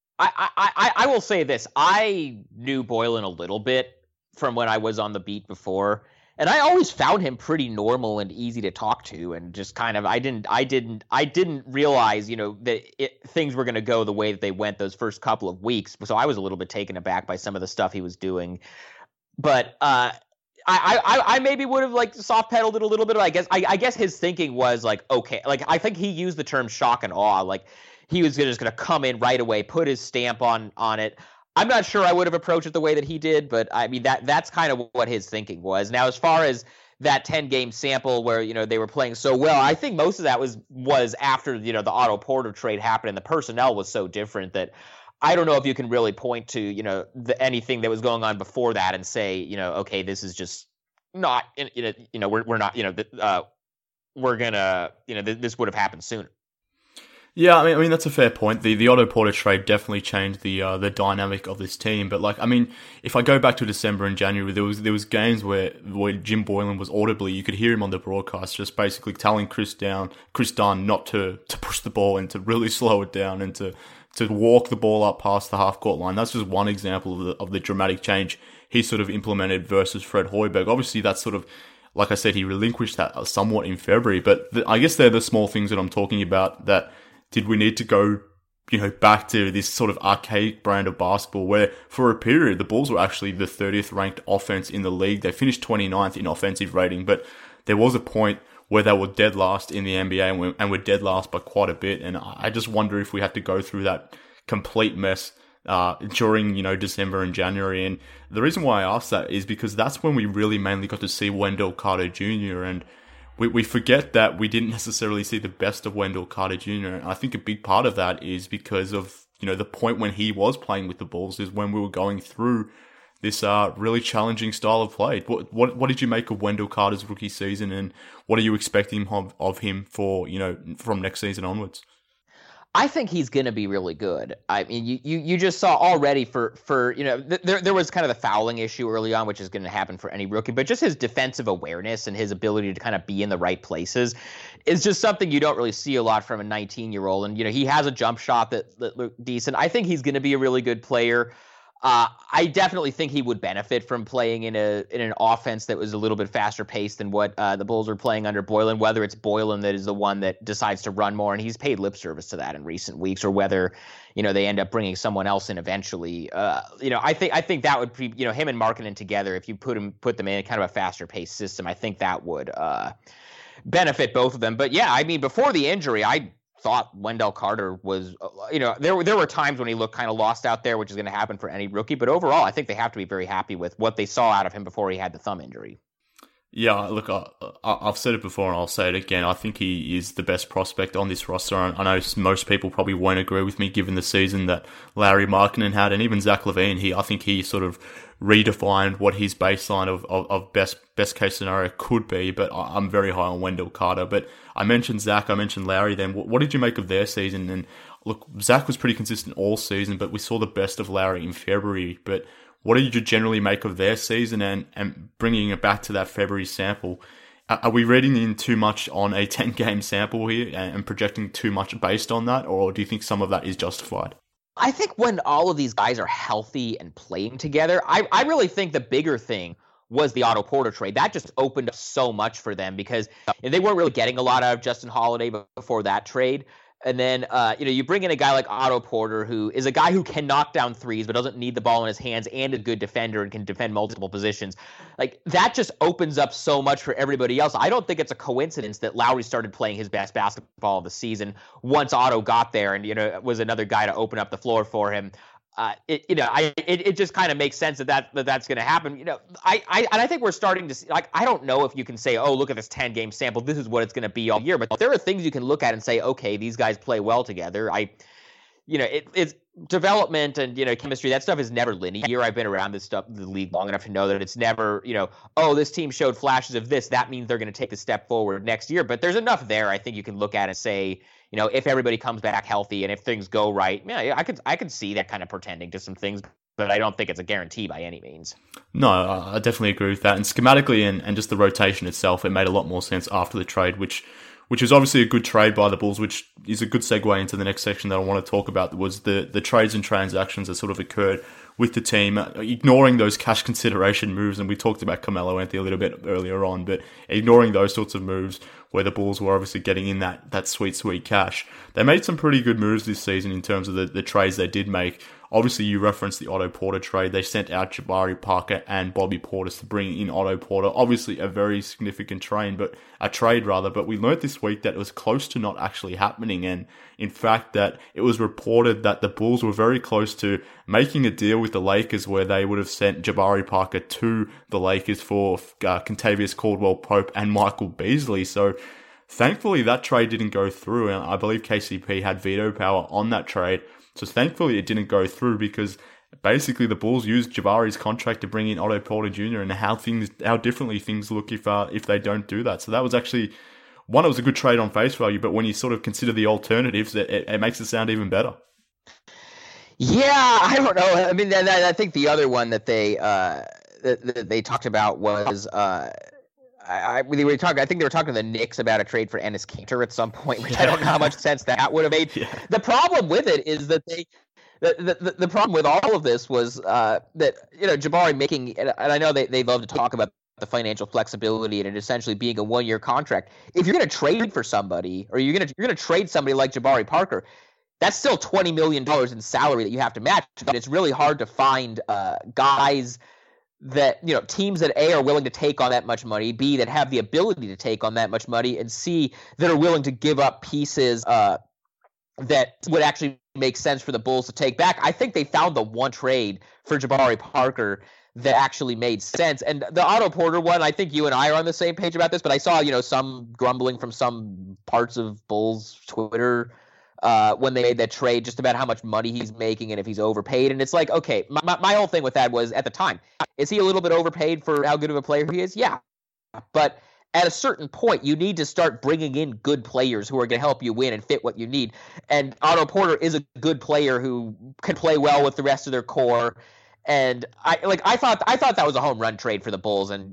I will say this. I knew Boylen a little bit from when I was on the beat before, and I always found him pretty normal and easy to talk to, and just kind of I didn't realize that things were going to go the way that they went those first couple of weeks. So I was a little bit taken aback by some of the stuff he was doing, but I maybe would have soft pedaled it a little bit. I guess his thinking was okay, I think he used the term shock and awe. He was just going to come in right away, put his stamp on it. I'm not sure I would have approached it the way that he did, but I mean that's kind of what his thinking was. Now, as far as that 10-game sample where they were playing so well, I think most of that was after the Otto Porter trade happened and the personnel was so different that I don't know if you can really point to anything that was going on before that and say okay, this is just not we're not we're gonna this would have happened sooner. Yeah, I mean that's a fair point. The Otto Porter trade definitely changed the dynamic of this team. But if I go back to December and January, there was games where Jim Boylen was audibly, you could hear him on the broadcast just basically telling Chris Dunn not to push the ball and to really slow it down and to walk the ball up past the half-court line. That's just one example of the dramatic change he sort of implemented versus Fred Højbjerg. Obviously, that's sort of, like I said, he relinquished that somewhat in February. But I guess they're the small things that I'm talking about that did we need to go, back to this sort of archaic brand of basketball where for a period the Bulls were actually the 30th ranked offense in the league. They finished 29th in offensive rating, but there was a point where they were dead last in the NBA and were dead last by quite a bit. And I just wonder if we had to go through that complete mess during, December and January. And the reason why I ask that is because that's when we really mainly got to see Wendell Carter Jr. And we forget that we didn't necessarily see the best of Wendell Carter Jr. And I think a big part of that is because of, the point when he was playing with the Bulls is when we were going through this really challenging style of play. What did you make of Wendell Carter's rookie season, and what are you expecting of him for, from next season onwards? I think he's going to be really good. I mean, you just saw already for there was kind of the fouling issue early on, which is going to happen for any rookie, but just his defensive awareness and his ability to kind of be in the right places is just something you don't really see a lot from a 19-year-old. And, he has a jump shot that looked decent. I think he's going to be a really good player. I definitely think he would benefit from playing in an offense that was a little bit faster paced than what the Bulls were playing under Boylen, whether it's Boylen that is the one that decides to run more, and he's paid lip service to that in recent weeks, or whether, they end up bringing someone else in eventually. I think that would be, him and Markkanen together, if you put them in kind of a faster paced system, I think that would benefit both of them. But yeah, I mean, before the injury, I thought Wendell Carter was, there were times when he looked kind of lost out there, which is going to happen for any rookie. But overall, I think they have to be very happy with what they saw out of him before he had the thumb injury. Yeah, look, I've said it before and I'll say it again. I think he is the best prospect on this roster. I know most people probably won't agree with me given the season that Lauri Markkanen had, and even Zach LaVine. I think he sort of redefined what his baseline of best case scenario could be, but I'm very high on Wendell Carter. But I mentioned Zach, I mentioned Lauri then. What did you make of their season? And look, Zach was pretty consistent all season, but we saw the best of Lowry in February. But what did you generally make of their season and bringing it back to that February sample? Are we reading in too much on a 10-game sample here and projecting too much based on that, or do you think some of that is justified? I think when all of these guys are healthy and playing together, I really think the bigger thing was the Otto Porter trade. That just opened up so much for them because they weren't really getting a lot out of Justin Holiday before that trade. And then, you bring in a guy like Otto Porter, who is a guy who can knock down threes, but doesn't need the ball in his hands and a good defender and can defend multiple positions. Like, that just opens up so much for everybody else. I don't think it's a coincidence that Lowry started playing his best basketball of the season once Otto got there and, was another guy to open up the floor for him. It just kind of makes sense that's going to happen. I think we're starting to see, like, I don't know if you can say, oh, look at this 10-game sample, this is what it's going to be all year, but there are things you can look at and say, okay, these guys play well together. It's development and, chemistry. That stuff is never linear. I've been around the league long enough to know that it's never, oh, this team showed flashes of this, that means they're going to take a step forward next year. But there's enough there, I think you can look at and say, if everybody comes back healthy and if things go right, yeah, I could see that kind of portending to some things, but I don't think it's a guarantee by any means. No, I definitely agree with that. And schematically and just the rotation itself, it made a lot more sense after the trade, which is obviously a good trade by the Bulls, which is a good segue into the next section that I want to talk about, was the trades and transactions that sort of occurred with the team, ignoring those cash consideration moves. And we talked about Carmelo Anthony a little bit earlier on, but ignoring those sorts of moves where the Bulls were obviously getting in that sweet cash. They made some pretty good moves this season in terms of the trades they did make. Obviously, you referenced the Otto Porter trade. They sent out Jabari Parker and Bobby Portis to bring in Otto Porter. Obviously, a very significant trade, but we learned this week that it was close to not actually happening. And in fact, that it was reported that the Bulls were very close to making a deal with the Lakers where they would have sent Jabari Parker to the Lakers for Kentavious Caldwell-Pope and Michael Beasley. So thankfully, that trade didn't go through. And I believe KCP had veto power on that trade. So thankfully it didn't go through because basically the Bulls used Jabari's contract to bring in Otto Porter Jr. and how differently things look if they don't do that. So that was actually, one, it was a good trade on face value, but when you sort of consider the alternatives, it makes it sound even better. Yeah, I don't know. I mean, I think the other one that they talked about was I think they were talking to the Knicks about a trade for Enes Kanter at some point, which I don't know how much sense that would have made. Yeah. The problem with it is that the problem with all of this was that Jabari making, and I know they love to talk about the financial flexibility and it essentially being a 1-year contract. If you're going to trade for somebody, or you're going to trade somebody like Jabari Parker, that's still $20 million in salary that you have to match. But it's really hard to find guys that, teams that A, are willing to take on that much money, B, that have the ability to take on that much money, and C, that are willing to give up pieces that would actually make sense for the Bulls to take back. I think they found the one trade for Jabari Parker that actually made sense. And the Otto Porter one, I think you and I are on the same page about this, but I saw, some grumbling from some parts of Bulls Twitter when they made that trade, just about how much money he's making and if he's overpaid. And it's like, okay, my whole thing with that was, at the time, is he a little bit overpaid for how good of a player he is? Yeah. But at a certain point, you need to start bringing in good players who are going to help you win and fit what you need. And Otto Porter is a good player who can play well with the rest of their core. And I thought that was a home run trade for the Bulls, and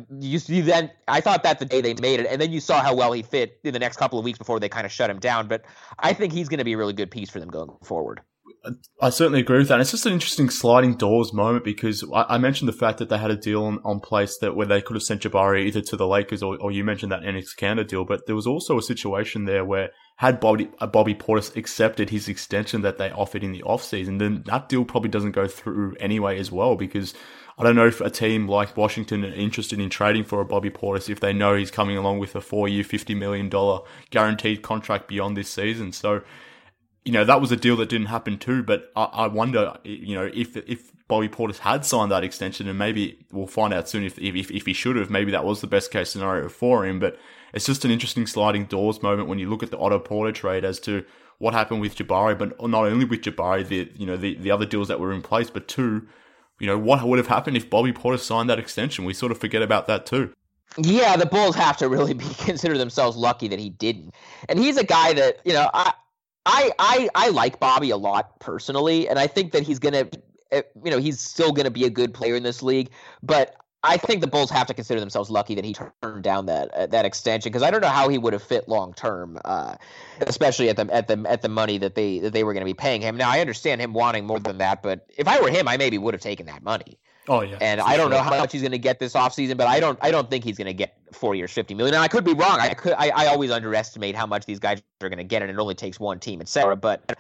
I thought that the day they made it, and then you saw how well he fit in the next couple of weeks before they kind of shut him down. But I think he's going to be a really good piece for them going forward. I certainly agree with that. And it's just an interesting sliding doors moment because I mentioned the fact that they had a deal on place where they could have sent Jabari either to the Lakers or you mentioned that Enes Kanter deal, but there was also a situation there where had Bobby Portis accepted his extension that they offered in the offseason, then that deal probably doesn't go through anyway as well, because I don't know if a team like Washington are interested in trading for a Bobby Portis if they know he's coming along with a 4-year, $50 million guaranteed contract beyond this season. So, that was a deal that didn't happen too, but I wonder, if Bobby Portis had signed that extension, and maybe we'll find out soon if he should have, maybe that was the best case scenario for him, but it's just an interesting sliding doors moment when you look at the Otto Porter trade as to what happened with Jabari, but not only with Jabari, the other deals that were in place, but two, what would have happened if Bobby Portis signed that extension? We sort of forget about that too. Yeah, the Bulls have to really consider themselves lucky that he didn't. And he's a guy that, I like Bobby a lot personally, and I think that he's gonna, he's still gonna be a good player in this league. But I think the Bulls have to consider themselves lucky that he turned down that extension, because I don't know how he would have fit long term, especially at the money that they were going to be paying him. Now I understand him wanting more than that, but if I were him, I maybe would have taken that money. Oh yeah, and I don't know how much he's going to get this offseason, but I don't think he's going to get 4 years, $50 million. Now I could be wrong. I always underestimate how much these guys are going to get, and it only takes one team, etc. But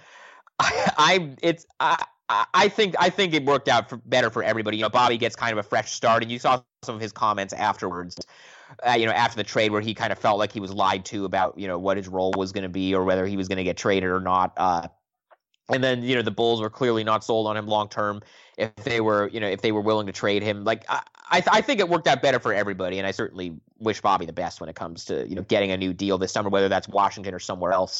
I think it worked out better for everybody. Bobby gets kind of a fresh start, and you saw some of his comments afterwards. After the trade, where he kind of felt like he was lied to about what his role was going to be, or whether he was going to get traded or not. And then the Bulls were clearly not sold on him long term. If they were willing to trade him, I think it worked out better for everybody, and I certainly wish Bobby the best when it comes to getting a new deal this summer, whether that's Washington or somewhere else.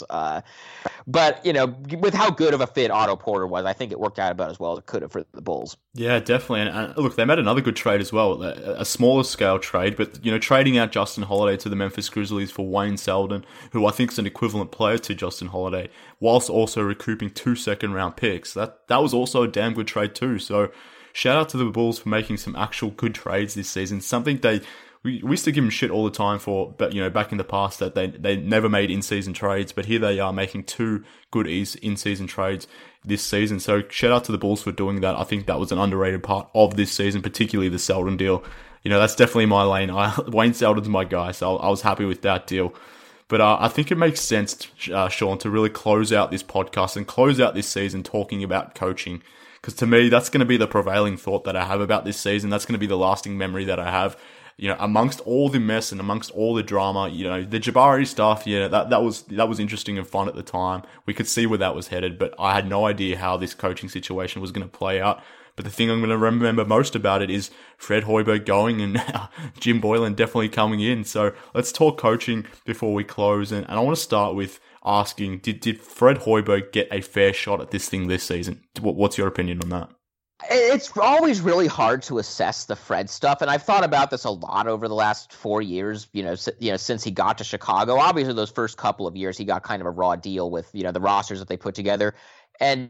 But with how good of a fit Otto Porter was, I think it worked out about as well as it could have for the Bulls. Yeah, definitely. And look, they made another good trade as well, a smaller scale trade, but trading out Justin Holiday to the Memphis Grizzlies for Wayne Selden, who I think is an equivalent player to Justin Holiday, whilst also recouping 2 second-round picks. That was also a damn good trade too. So shout out to the Bulls for making some actual good trades this season. Something we used to give them shit all the time for, but back in the past that they never made in-season trades, but here they are making 2 good in-season trades this season. So shout out to the Bulls for doing that. I think that was an underrated part of this season, particularly the Selden deal. That's definitely my lane. Wayne Selden's my guy, so I was happy with that deal. But I think it makes sense, Sean, to really close out this podcast and close out this season talking about coaching. Because to me, that's going to be the prevailing thought that I have about this season. That's going to be the lasting memory that I have. Amongst all the mess and amongst all the drama, the Jabari stuff, that was interesting and fun at the time. We could see where that was headed, but I had no idea how this coaching situation was going to play out. But the thing I'm going to remember most about it is Fred Hoiberg going and Jim Boylen definitely coming in. So let's talk coaching before we close. And I want to start with asking, did Fred Hoiberg get a fair shot at this thing this season? What's your opinion on that? It's always really hard to assess the Fred stuff, and I've thought about this a lot over the last 4 years, since he got to Chicago. Obviously, those first couple of years, he got kind of a raw deal with, the rosters that they put together. And,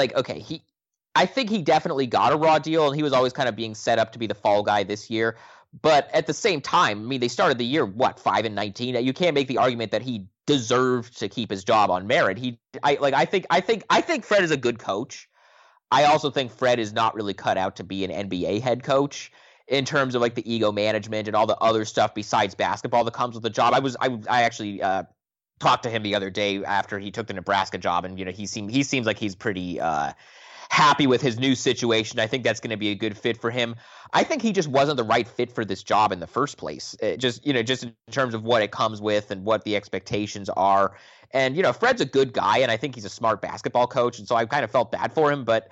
I think he definitely got a raw deal, and he was always kind of being set up to be the fall guy this year. But at the same time, they started the year, 5-19? You can't make the argument that he deserved to keep his job on merit. I think Fred is a good coach. I also think Fred is not really cut out to be an NBA head coach in terms of the ego management and all the other stuff besides basketball that comes with the job. I actually talked to him the other day after he took the Nebraska job, and he seems like he's pretty happy with his new situation. I think that's going to be a good fit for him. I think he just wasn't the right fit for this job in the first place. Just in terms of what it comes with and what the expectations are. And Fred's a good guy, and I think he's a smart basketball coach, and so I kind of felt bad for him. But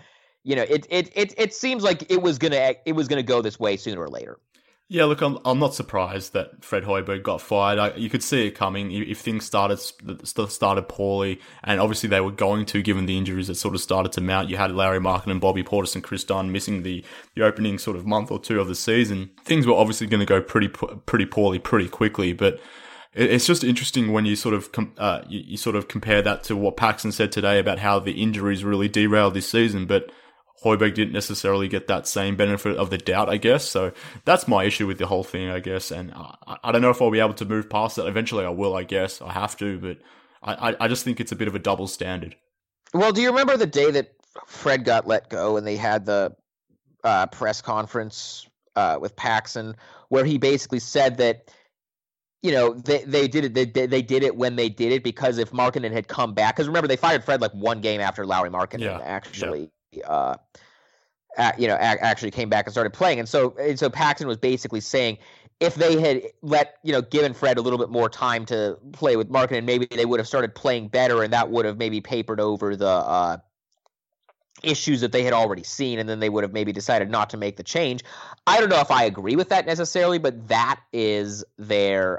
it seems like it was gonna go this way sooner or later. Yeah, look, I'm not surprised that Fred Hoiberg got fired. You could see it coming if things started poorly, and obviously they were going to, given the injuries that sort of started to mount. You had Larry Markkinen, Bobby Portis, and Chris Dunn missing the opening sort of month or two of the season. Things were obviously going to go pretty poorly pretty quickly, but it's just interesting when you sort of you sort of compare that to what Paxson said today about how the injuries really derailed this season, but Hoiberg didn't necessarily get that same benefit of the doubt, I guess. So that's my issue with the whole thing, I guess. And I don't know if I'll be able to move past that. Eventually I will, I guess. I have to, but I just think it's a bit of a double standard. Well, do you remember the day that Fred got let go and they had the press conference with Paxson where he basically said that, they did it. They did it when they did it because if Markkinen had come back, because remember they fired Fred one game after Larry Markkinen actually came back and started playing, and so Paxson was basically saying if they had given Fred a little bit more time to play with Markkinen, maybe they would have started playing better, and that would have maybe papered over the issues that they had already seen, and then they would have maybe decided not to make the change. I don't know if I agree with that necessarily, but that is their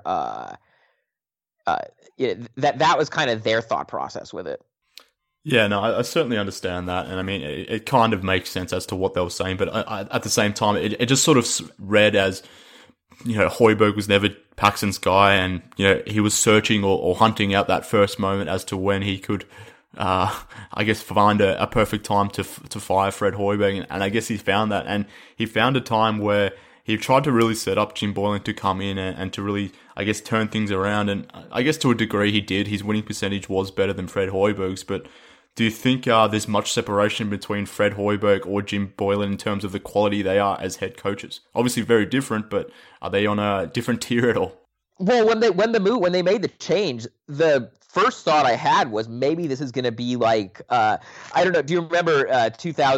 that was kind of their thought process with it. Yeah, no, I certainly understand that, and I mean, it kind of makes sense as to what they were saying, but at the same time, it just sort of read as, Hoiberg was never Paxson's guy, and, he was searching or hunting out that first moment as to when he could I guess, find a perfect time to fire Fred Hoiberg, and I guess he found that, and he found a time where he tried to really set up Jim Boylen to come in and to really, I guess, turn things around, and I guess to a degree he did. His winning percentage was better than Fred Hoiberg's, but do you think there's much separation between Fred Hoiberg or Jim Boylen in terms of the quality they are as head coaches? Obviously very different, but are they on a different tier at all? Well, when they made the change, the first thought I had was maybe this is going to be like I don't know. Do you remember the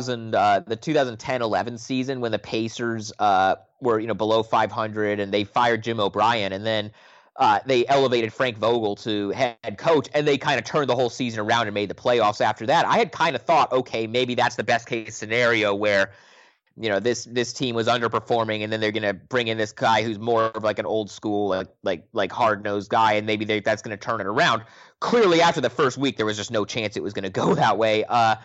2010-11 season when the Pacers were below 500 and they fired Jim O'Brien, and then they elevated Frank Vogel to head coach, and they kind of turned the whole season around and made the playoffs after that. I had kind of thought, okay, maybe that's the best case scenario where this team was underperforming, and then they're going to bring in this guy who's more of like an old school, like hard-nosed guy, and maybe that's going to turn it around. Clearly, after the first week, there was just no chance it was going to go that way.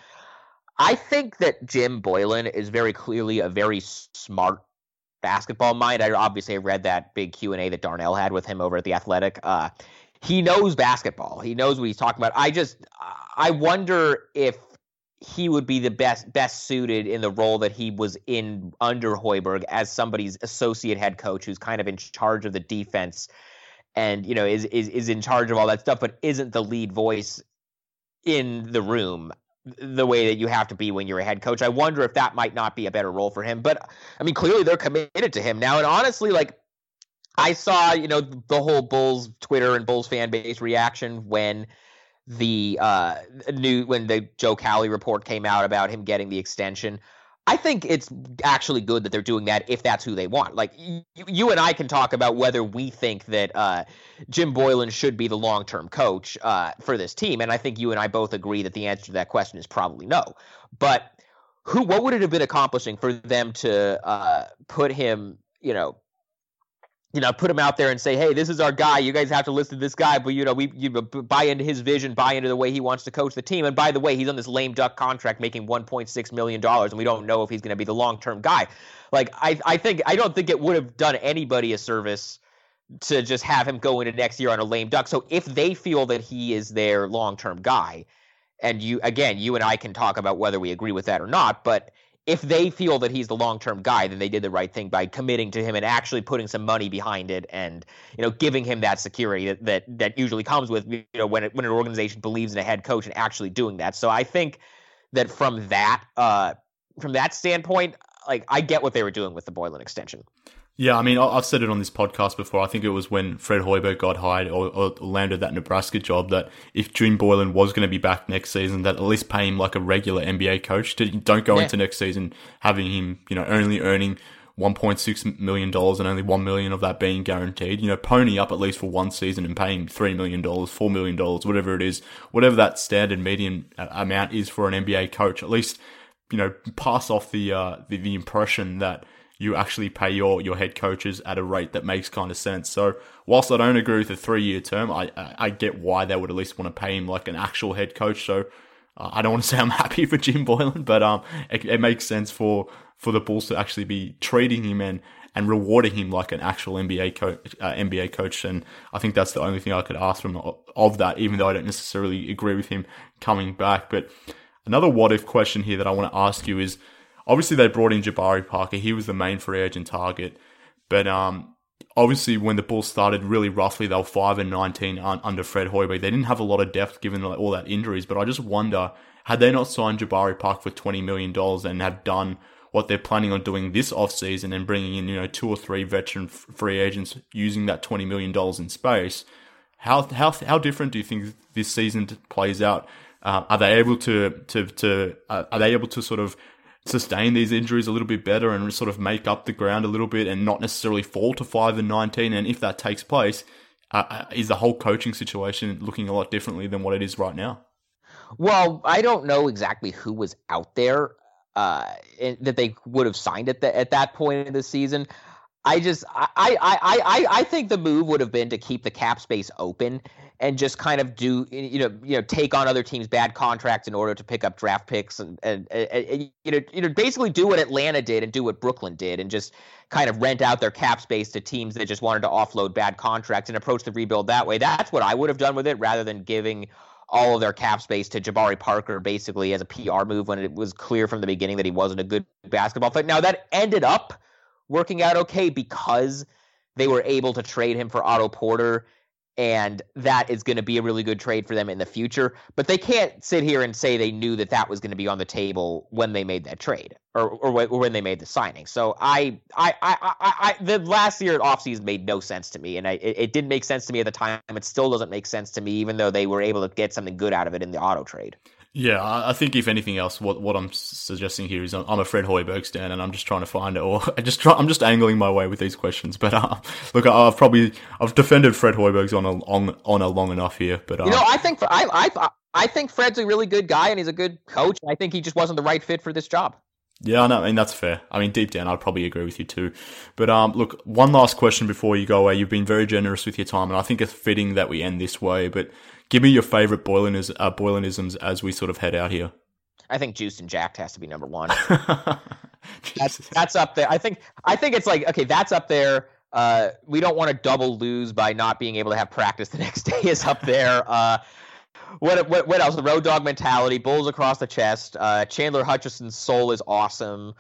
I think that Jim Boylen is very clearly a very smart basketball mind. I obviously read that big Q&A that Darnell had with him over at The Athletic. He knows basketball. He knows what he's talking about. I wonder if he would be the best suited in the role that he was in under Hoiberg as somebody's associate head coach who's kind of in charge of the defense and is in charge of all that stuff, but isn't the lead voice in the room the way that you have to be when you're a head coach. I wonder if that might not be a better role for him. But I mean, clearly they're committed to him now. And honestly, like, I saw the whole Bulls Twitter and Bulls fan base reaction when the Joe Cowley report came out about him getting the extension. I think it's actually good that they're doing that if that's who they want. Like, you and I can talk about whether we think that Jim Boylen should be the long-term coach for this team, and I think you and I both agree that the answer to that question is probably no. But what would it have been accomplishing for them to put him, put him out there and say, hey, this is our guy. You guys have to listen to this guy, but we buy into his vision, buy into the way he wants to coach the team. And by the way, he's on this lame duck contract making $1.6 million, and we don't know if he's going to be the long-term guy. Like, I don't think it would have done anybody a service to just have him go into next year on a lame duck. So if they feel that he is their long-term guy, and you and I can talk about whether we agree with that or not, but if they feel that he's the long-term guy, then they did the right thing by committing to him and actually putting some money behind it, and giving him that security that usually comes with when an organization believes in a head coach and actually doing that. So I think that from that standpoint, like, I get what they were doing with the Boylen extension. Yeah, I mean, I've said it on this podcast before. I think it was when Fred Hoiberg got hired or landed that Nebraska job that if Jim Boylen was going to be back next season, that at least pay him like a regular NBA coach. Don't go into next season having him, only earning $1.6 million and only $1 million of that being guaranteed. Pony up at least for one season and pay him $3 million, $4 million, whatever it is, whatever that standard median amount is for an NBA coach. At least, pass off the impression that you actually pay your head coaches at a rate that makes kind of sense. So whilst I don't agree with the 3-year term, I get why they would at least want to pay him like an actual head coach. So I don't want to say I'm happy for Jim Boylen, but it makes sense for the Bulls to actually be treating him and rewarding him like an actual NBA coach. And I think that's the only thing I could ask from of that, even though I don't necessarily agree with him coming back. But another what-if question here that I want to ask you is, obviously, they brought in Jabari Parker. He was the main free agent target. But obviously, when the Bulls started really roughly, they were 5-19 under Fred Hoiberg. They didn't have a lot of depth given all that injuries. But I just wonder, had they not signed Jabari Parker for $20 million and have done what they're planning on doing this offseason and bringing in 2 or 3 veteran free agents using that $20 million in space, how different do you think this season plays out? Are they able to sort of sustain these injuries a little bit better and sort of make up the ground a little bit and not necessarily fall to 5-19? And if that takes place, is the whole coaching situation looking a lot differently than what it is right now? Well, I don't know exactly who was out there that they would have signed at that point in the season. I think the move would have been to keep the cap space open and just kind of do, take on other teams' bad contracts in order to pick up draft picks and basically do what Atlanta did and do what Brooklyn did and just kind of rent out their cap space to teams that just wanted to offload bad contracts and approach the rebuild that way. That's what I would have done with it rather than giving all of their cap space to Jabari Parker basically as a PR move when it was clear from the beginning that he wasn't a good basketball player. Now, that ended up working out okay because they were able to trade him for Otto Porter, and that is going to be a really good trade for them in the future. But they can't sit here and say they knew that that was going to be on the table when they made that trade or when they made the signing. So the last year offseason made no sense to me, and it didn't make sense to me at the time. It still doesn't make sense to me, even though they were able to get something good out of it in the Otto trade. Yeah, I think if anything else, what I'm suggesting here is I'm a Fred Hoiberg stan, and I'm just trying to find it, or I'm just angling my way with these questions. But look, I've defended Fred Hoiberg's on a long enough here. But I think Fred's a really good guy and he's a good coach. I think he just wasn't the right fit for this job. Yeah, no, I mean, that's fair. I mean, deep down, I'd probably agree with you too. But look, one last question before you go away. You've been very generous with your time, and I think it's fitting that we end this way. But give me your favorite Boylanisms as we sort of head out here. I think Juiced and Jacked has to be number one. that's up there. I think it's like, okay, that's up there. We don't want to double lose by not being able to have practice the next day is up there. What else? The Road Dog mentality, Bulls across the chest. Chandler Hutchison's soul is awesome.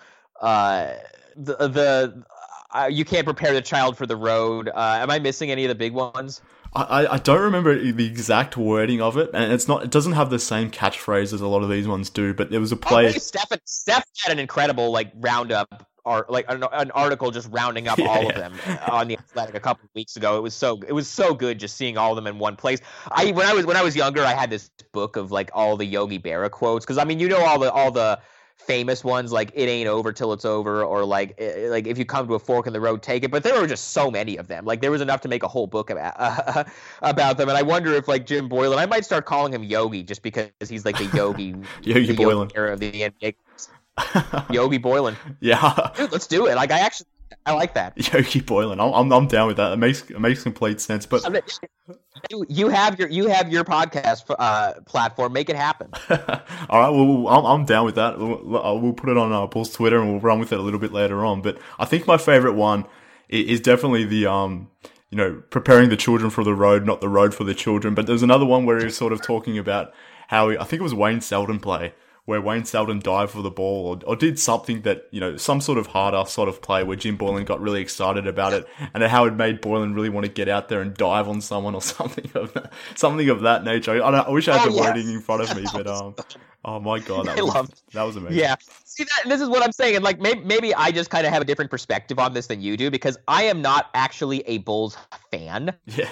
You can't prepare the child for the road. Am I missing any of the big ones? I don't remember the exact wording of it, and it doesn't have the same catchphrase as a lot of these ones do. But there was a play. Steph had an incredible roundup. Or an article just rounding up all of them on the Athletic a couple of weeks ago. It was so good just seeing all of them in one place. When I was younger, I had this book of all the Yogi Berra quotes, because I mean all the famous ones like "It ain't over till it's over" or like if you come to a fork in the road, take it. But there were just so many of them. There was enough to make a whole book about them. And I wonder if Jim Boylen, I might start calling him Yogi just because he's like the Yogi Yogi Boylen era of the NBA. Yogi Boylen. Yeah. Dude, let's do it. I like that. Yogi Boylen. I'm down with that. It makes complete sense. But you have your podcast platform. Make it happen. All right. Well, I'm down with that. We'll put it on Bulls Twitter and we'll run with it a little bit later on. But I think my favorite one is definitely the preparing the children for the road, not the road for the children. But there's another one where he was sort of talking about how I think it was Wayne Selden play, where Wayne Selden dived for the ball or did something that, some sort of harder sort of play where Jim Boylen got really excited about it, and how it made Boylen really want to get out there and dive on someone or something of that nature. I wish I had the wording in front of me, but oh my God, that was amazing. Yeah. See, this is what I'm saying. And maybe I just kind of have a different perspective on this than you do, because I am not actually a Bulls fan. Yeah.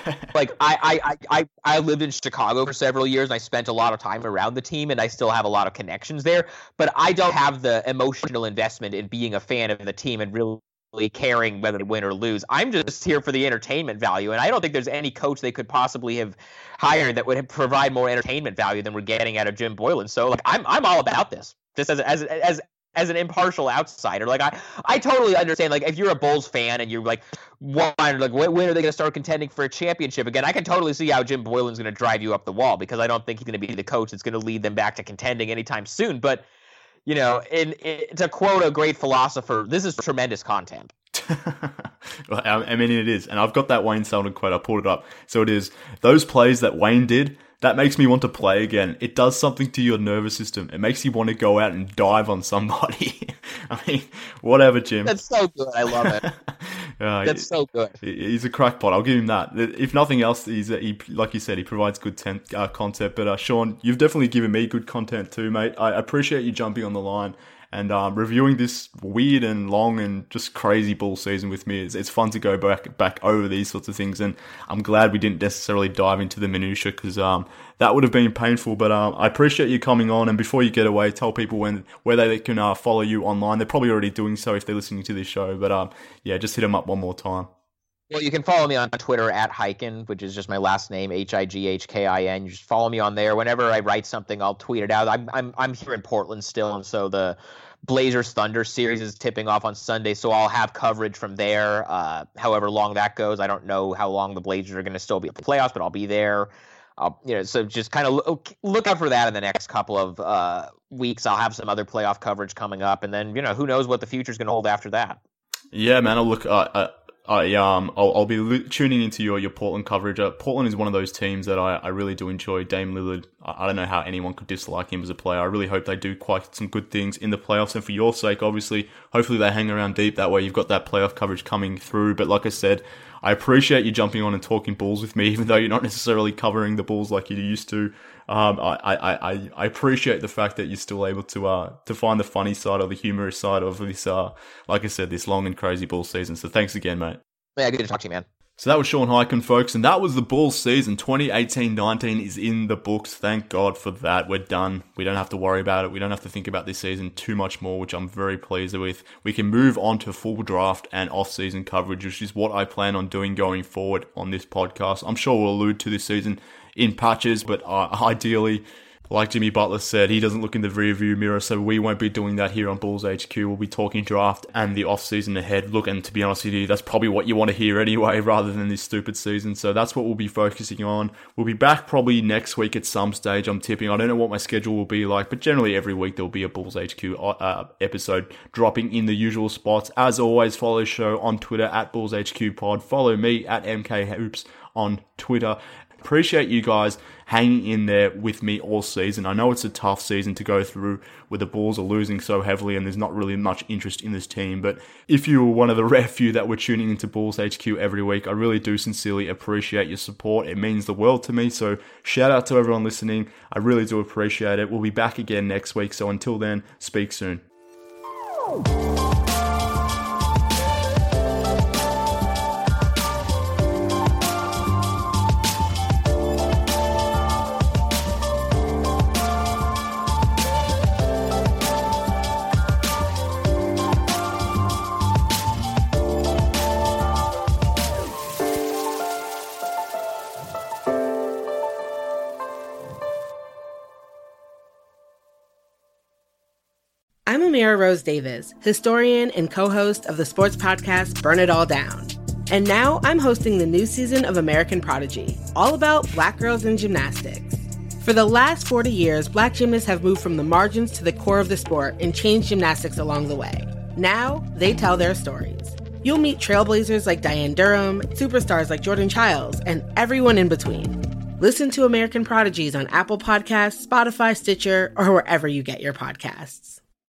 I lived in Chicago for several years and I spent a lot of time around the team and I still have a lot of connections there, but I don't have the emotional investment in being a fan of the team and really caring whether they win or lose. I'm just here for the entertainment value, and I don't think there's any coach they could possibly have hired that would provide more entertainment value than we're getting out of Jim Boylen. So I'm all about this, just as an impartial outsider. I totally understand. If you're a Bulls fan and you're when are they going to start contending for a championship again? I can totally see how Jim Boylen's going to drive you up the wall, because I don't think he's going to be the coach that's going to lead them back to contending anytime soon. But to quote a great philosopher, this is tremendous content. Well, I mean, it is. And I've got that Wayne Selden quote. I pulled it up. So it is, those plays that Wayne did, that makes me want to play again. It does something to your nervous system. It makes you want to go out and dive on somebody. I mean, whatever, Jim. That's so good. I love it. That's so good. He's a crackpot. I'll give him that. If nothing else, he like you said, he provides good content. But Sean, you've definitely given me good content too, mate. I appreciate you jumping on the line and reviewing this weird and long and just crazy Bull season with me. It's fun to go back over these sorts of things, and I'm glad we didn't necessarily dive into the minutiae, because that would have been painful. But I appreciate you coming on, and before you get away, tell people where they can follow you online. They're probably already doing so if they're listening to this show, but just hit them up one more time. Well, you can follow me on Twitter at Highkin, which is just my last name, Highkin. You just follow me on there. Whenever I write something, I'll tweet it out. I'm here in Portland still, and so the Blazers Thunder series is tipping off on Sunday, so I'll have coverage from there. However long that goes, I don't know how long the Blazers are going to still be at the playoffs, but I'll be there. So just kind of look out for that in the next couple of weeks. I'll have some other playoff coverage coming up, and then who knows what the future is going to hold after that. Yeah, man. Look, I'll be tuning into your Portland coverage. Portland is one of those teams that I really do enjoy. Dame Lillard, I don't know how anyone could dislike him as a player. I really hope they do quite some good things in the playoffs, and for your sake, obviously, hopefully they hang around deep. That way you've got that playoff coverage coming through. But like I said, I appreciate you jumping on and talking Bulls with me, even though you're not necessarily covering the Bulls like you used to. I appreciate the fact that you're still able to find the funny side or the humorous side of this, like I said, this long and crazy Bulls season. So thanks again, mate. Yeah, good to talk to you, man. So that was Sean Highkin, folks, and that was the Bulls season. 2018-19 is in the books. Thank God for that. We're done. We don't have to worry about it. We don't have to think about this season too much more, which I'm very pleased with. We can move on to full draft and off-season coverage, which is what I plan on doing going forward on this podcast. I'm sure we'll allude to this season in patches, but ideally, like Jimmy Butler said, he doesn't look in the rearview mirror, so we won't be doing that here on Bulls HQ. We'll be talking draft and the off-season ahead. Look, and to be honest with you, that's probably what you want to hear anyway, rather than this stupid season. So that's what we'll be focusing on. We'll be back probably next week at some stage, I'm tipping. I don't know what my schedule will be like, but generally every week there'll be a Bulls HQ episode dropping in the usual spots. As always, follow the show on Twitter at Bulls HQ Pod. Follow me at MK Hoops on Twitter. Appreciate you guys hanging in there with me all season. I know it's a tough season to go through where the Bulls are losing so heavily and there's not really much interest in this team. But if you were one of the rare few that were tuning into Bulls HQ every week, I really do sincerely appreciate your support. It means the world to me. So shout out to everyone listening. I really do appreciate it. We'll be back again next week. So until then, speak soon. I'm Amira Rose Davis, historian and co-host of the sports podcast Burn It All Down. And now I'm hosting the new season of American Prodigy, all about Black girls in gymnastics. For the last 40 years, Black gymnasts have moved from the margins to the core of the sport and changed gymnastics along the way. Now, they tell their stories. You'll meet trailblazers like Diane Durham, superstars like Jordan Childs, and everyone in between. Listen to American Prodigies on Apple Podcasts, Spotify, Stitcher, or wherever you get your podcasts.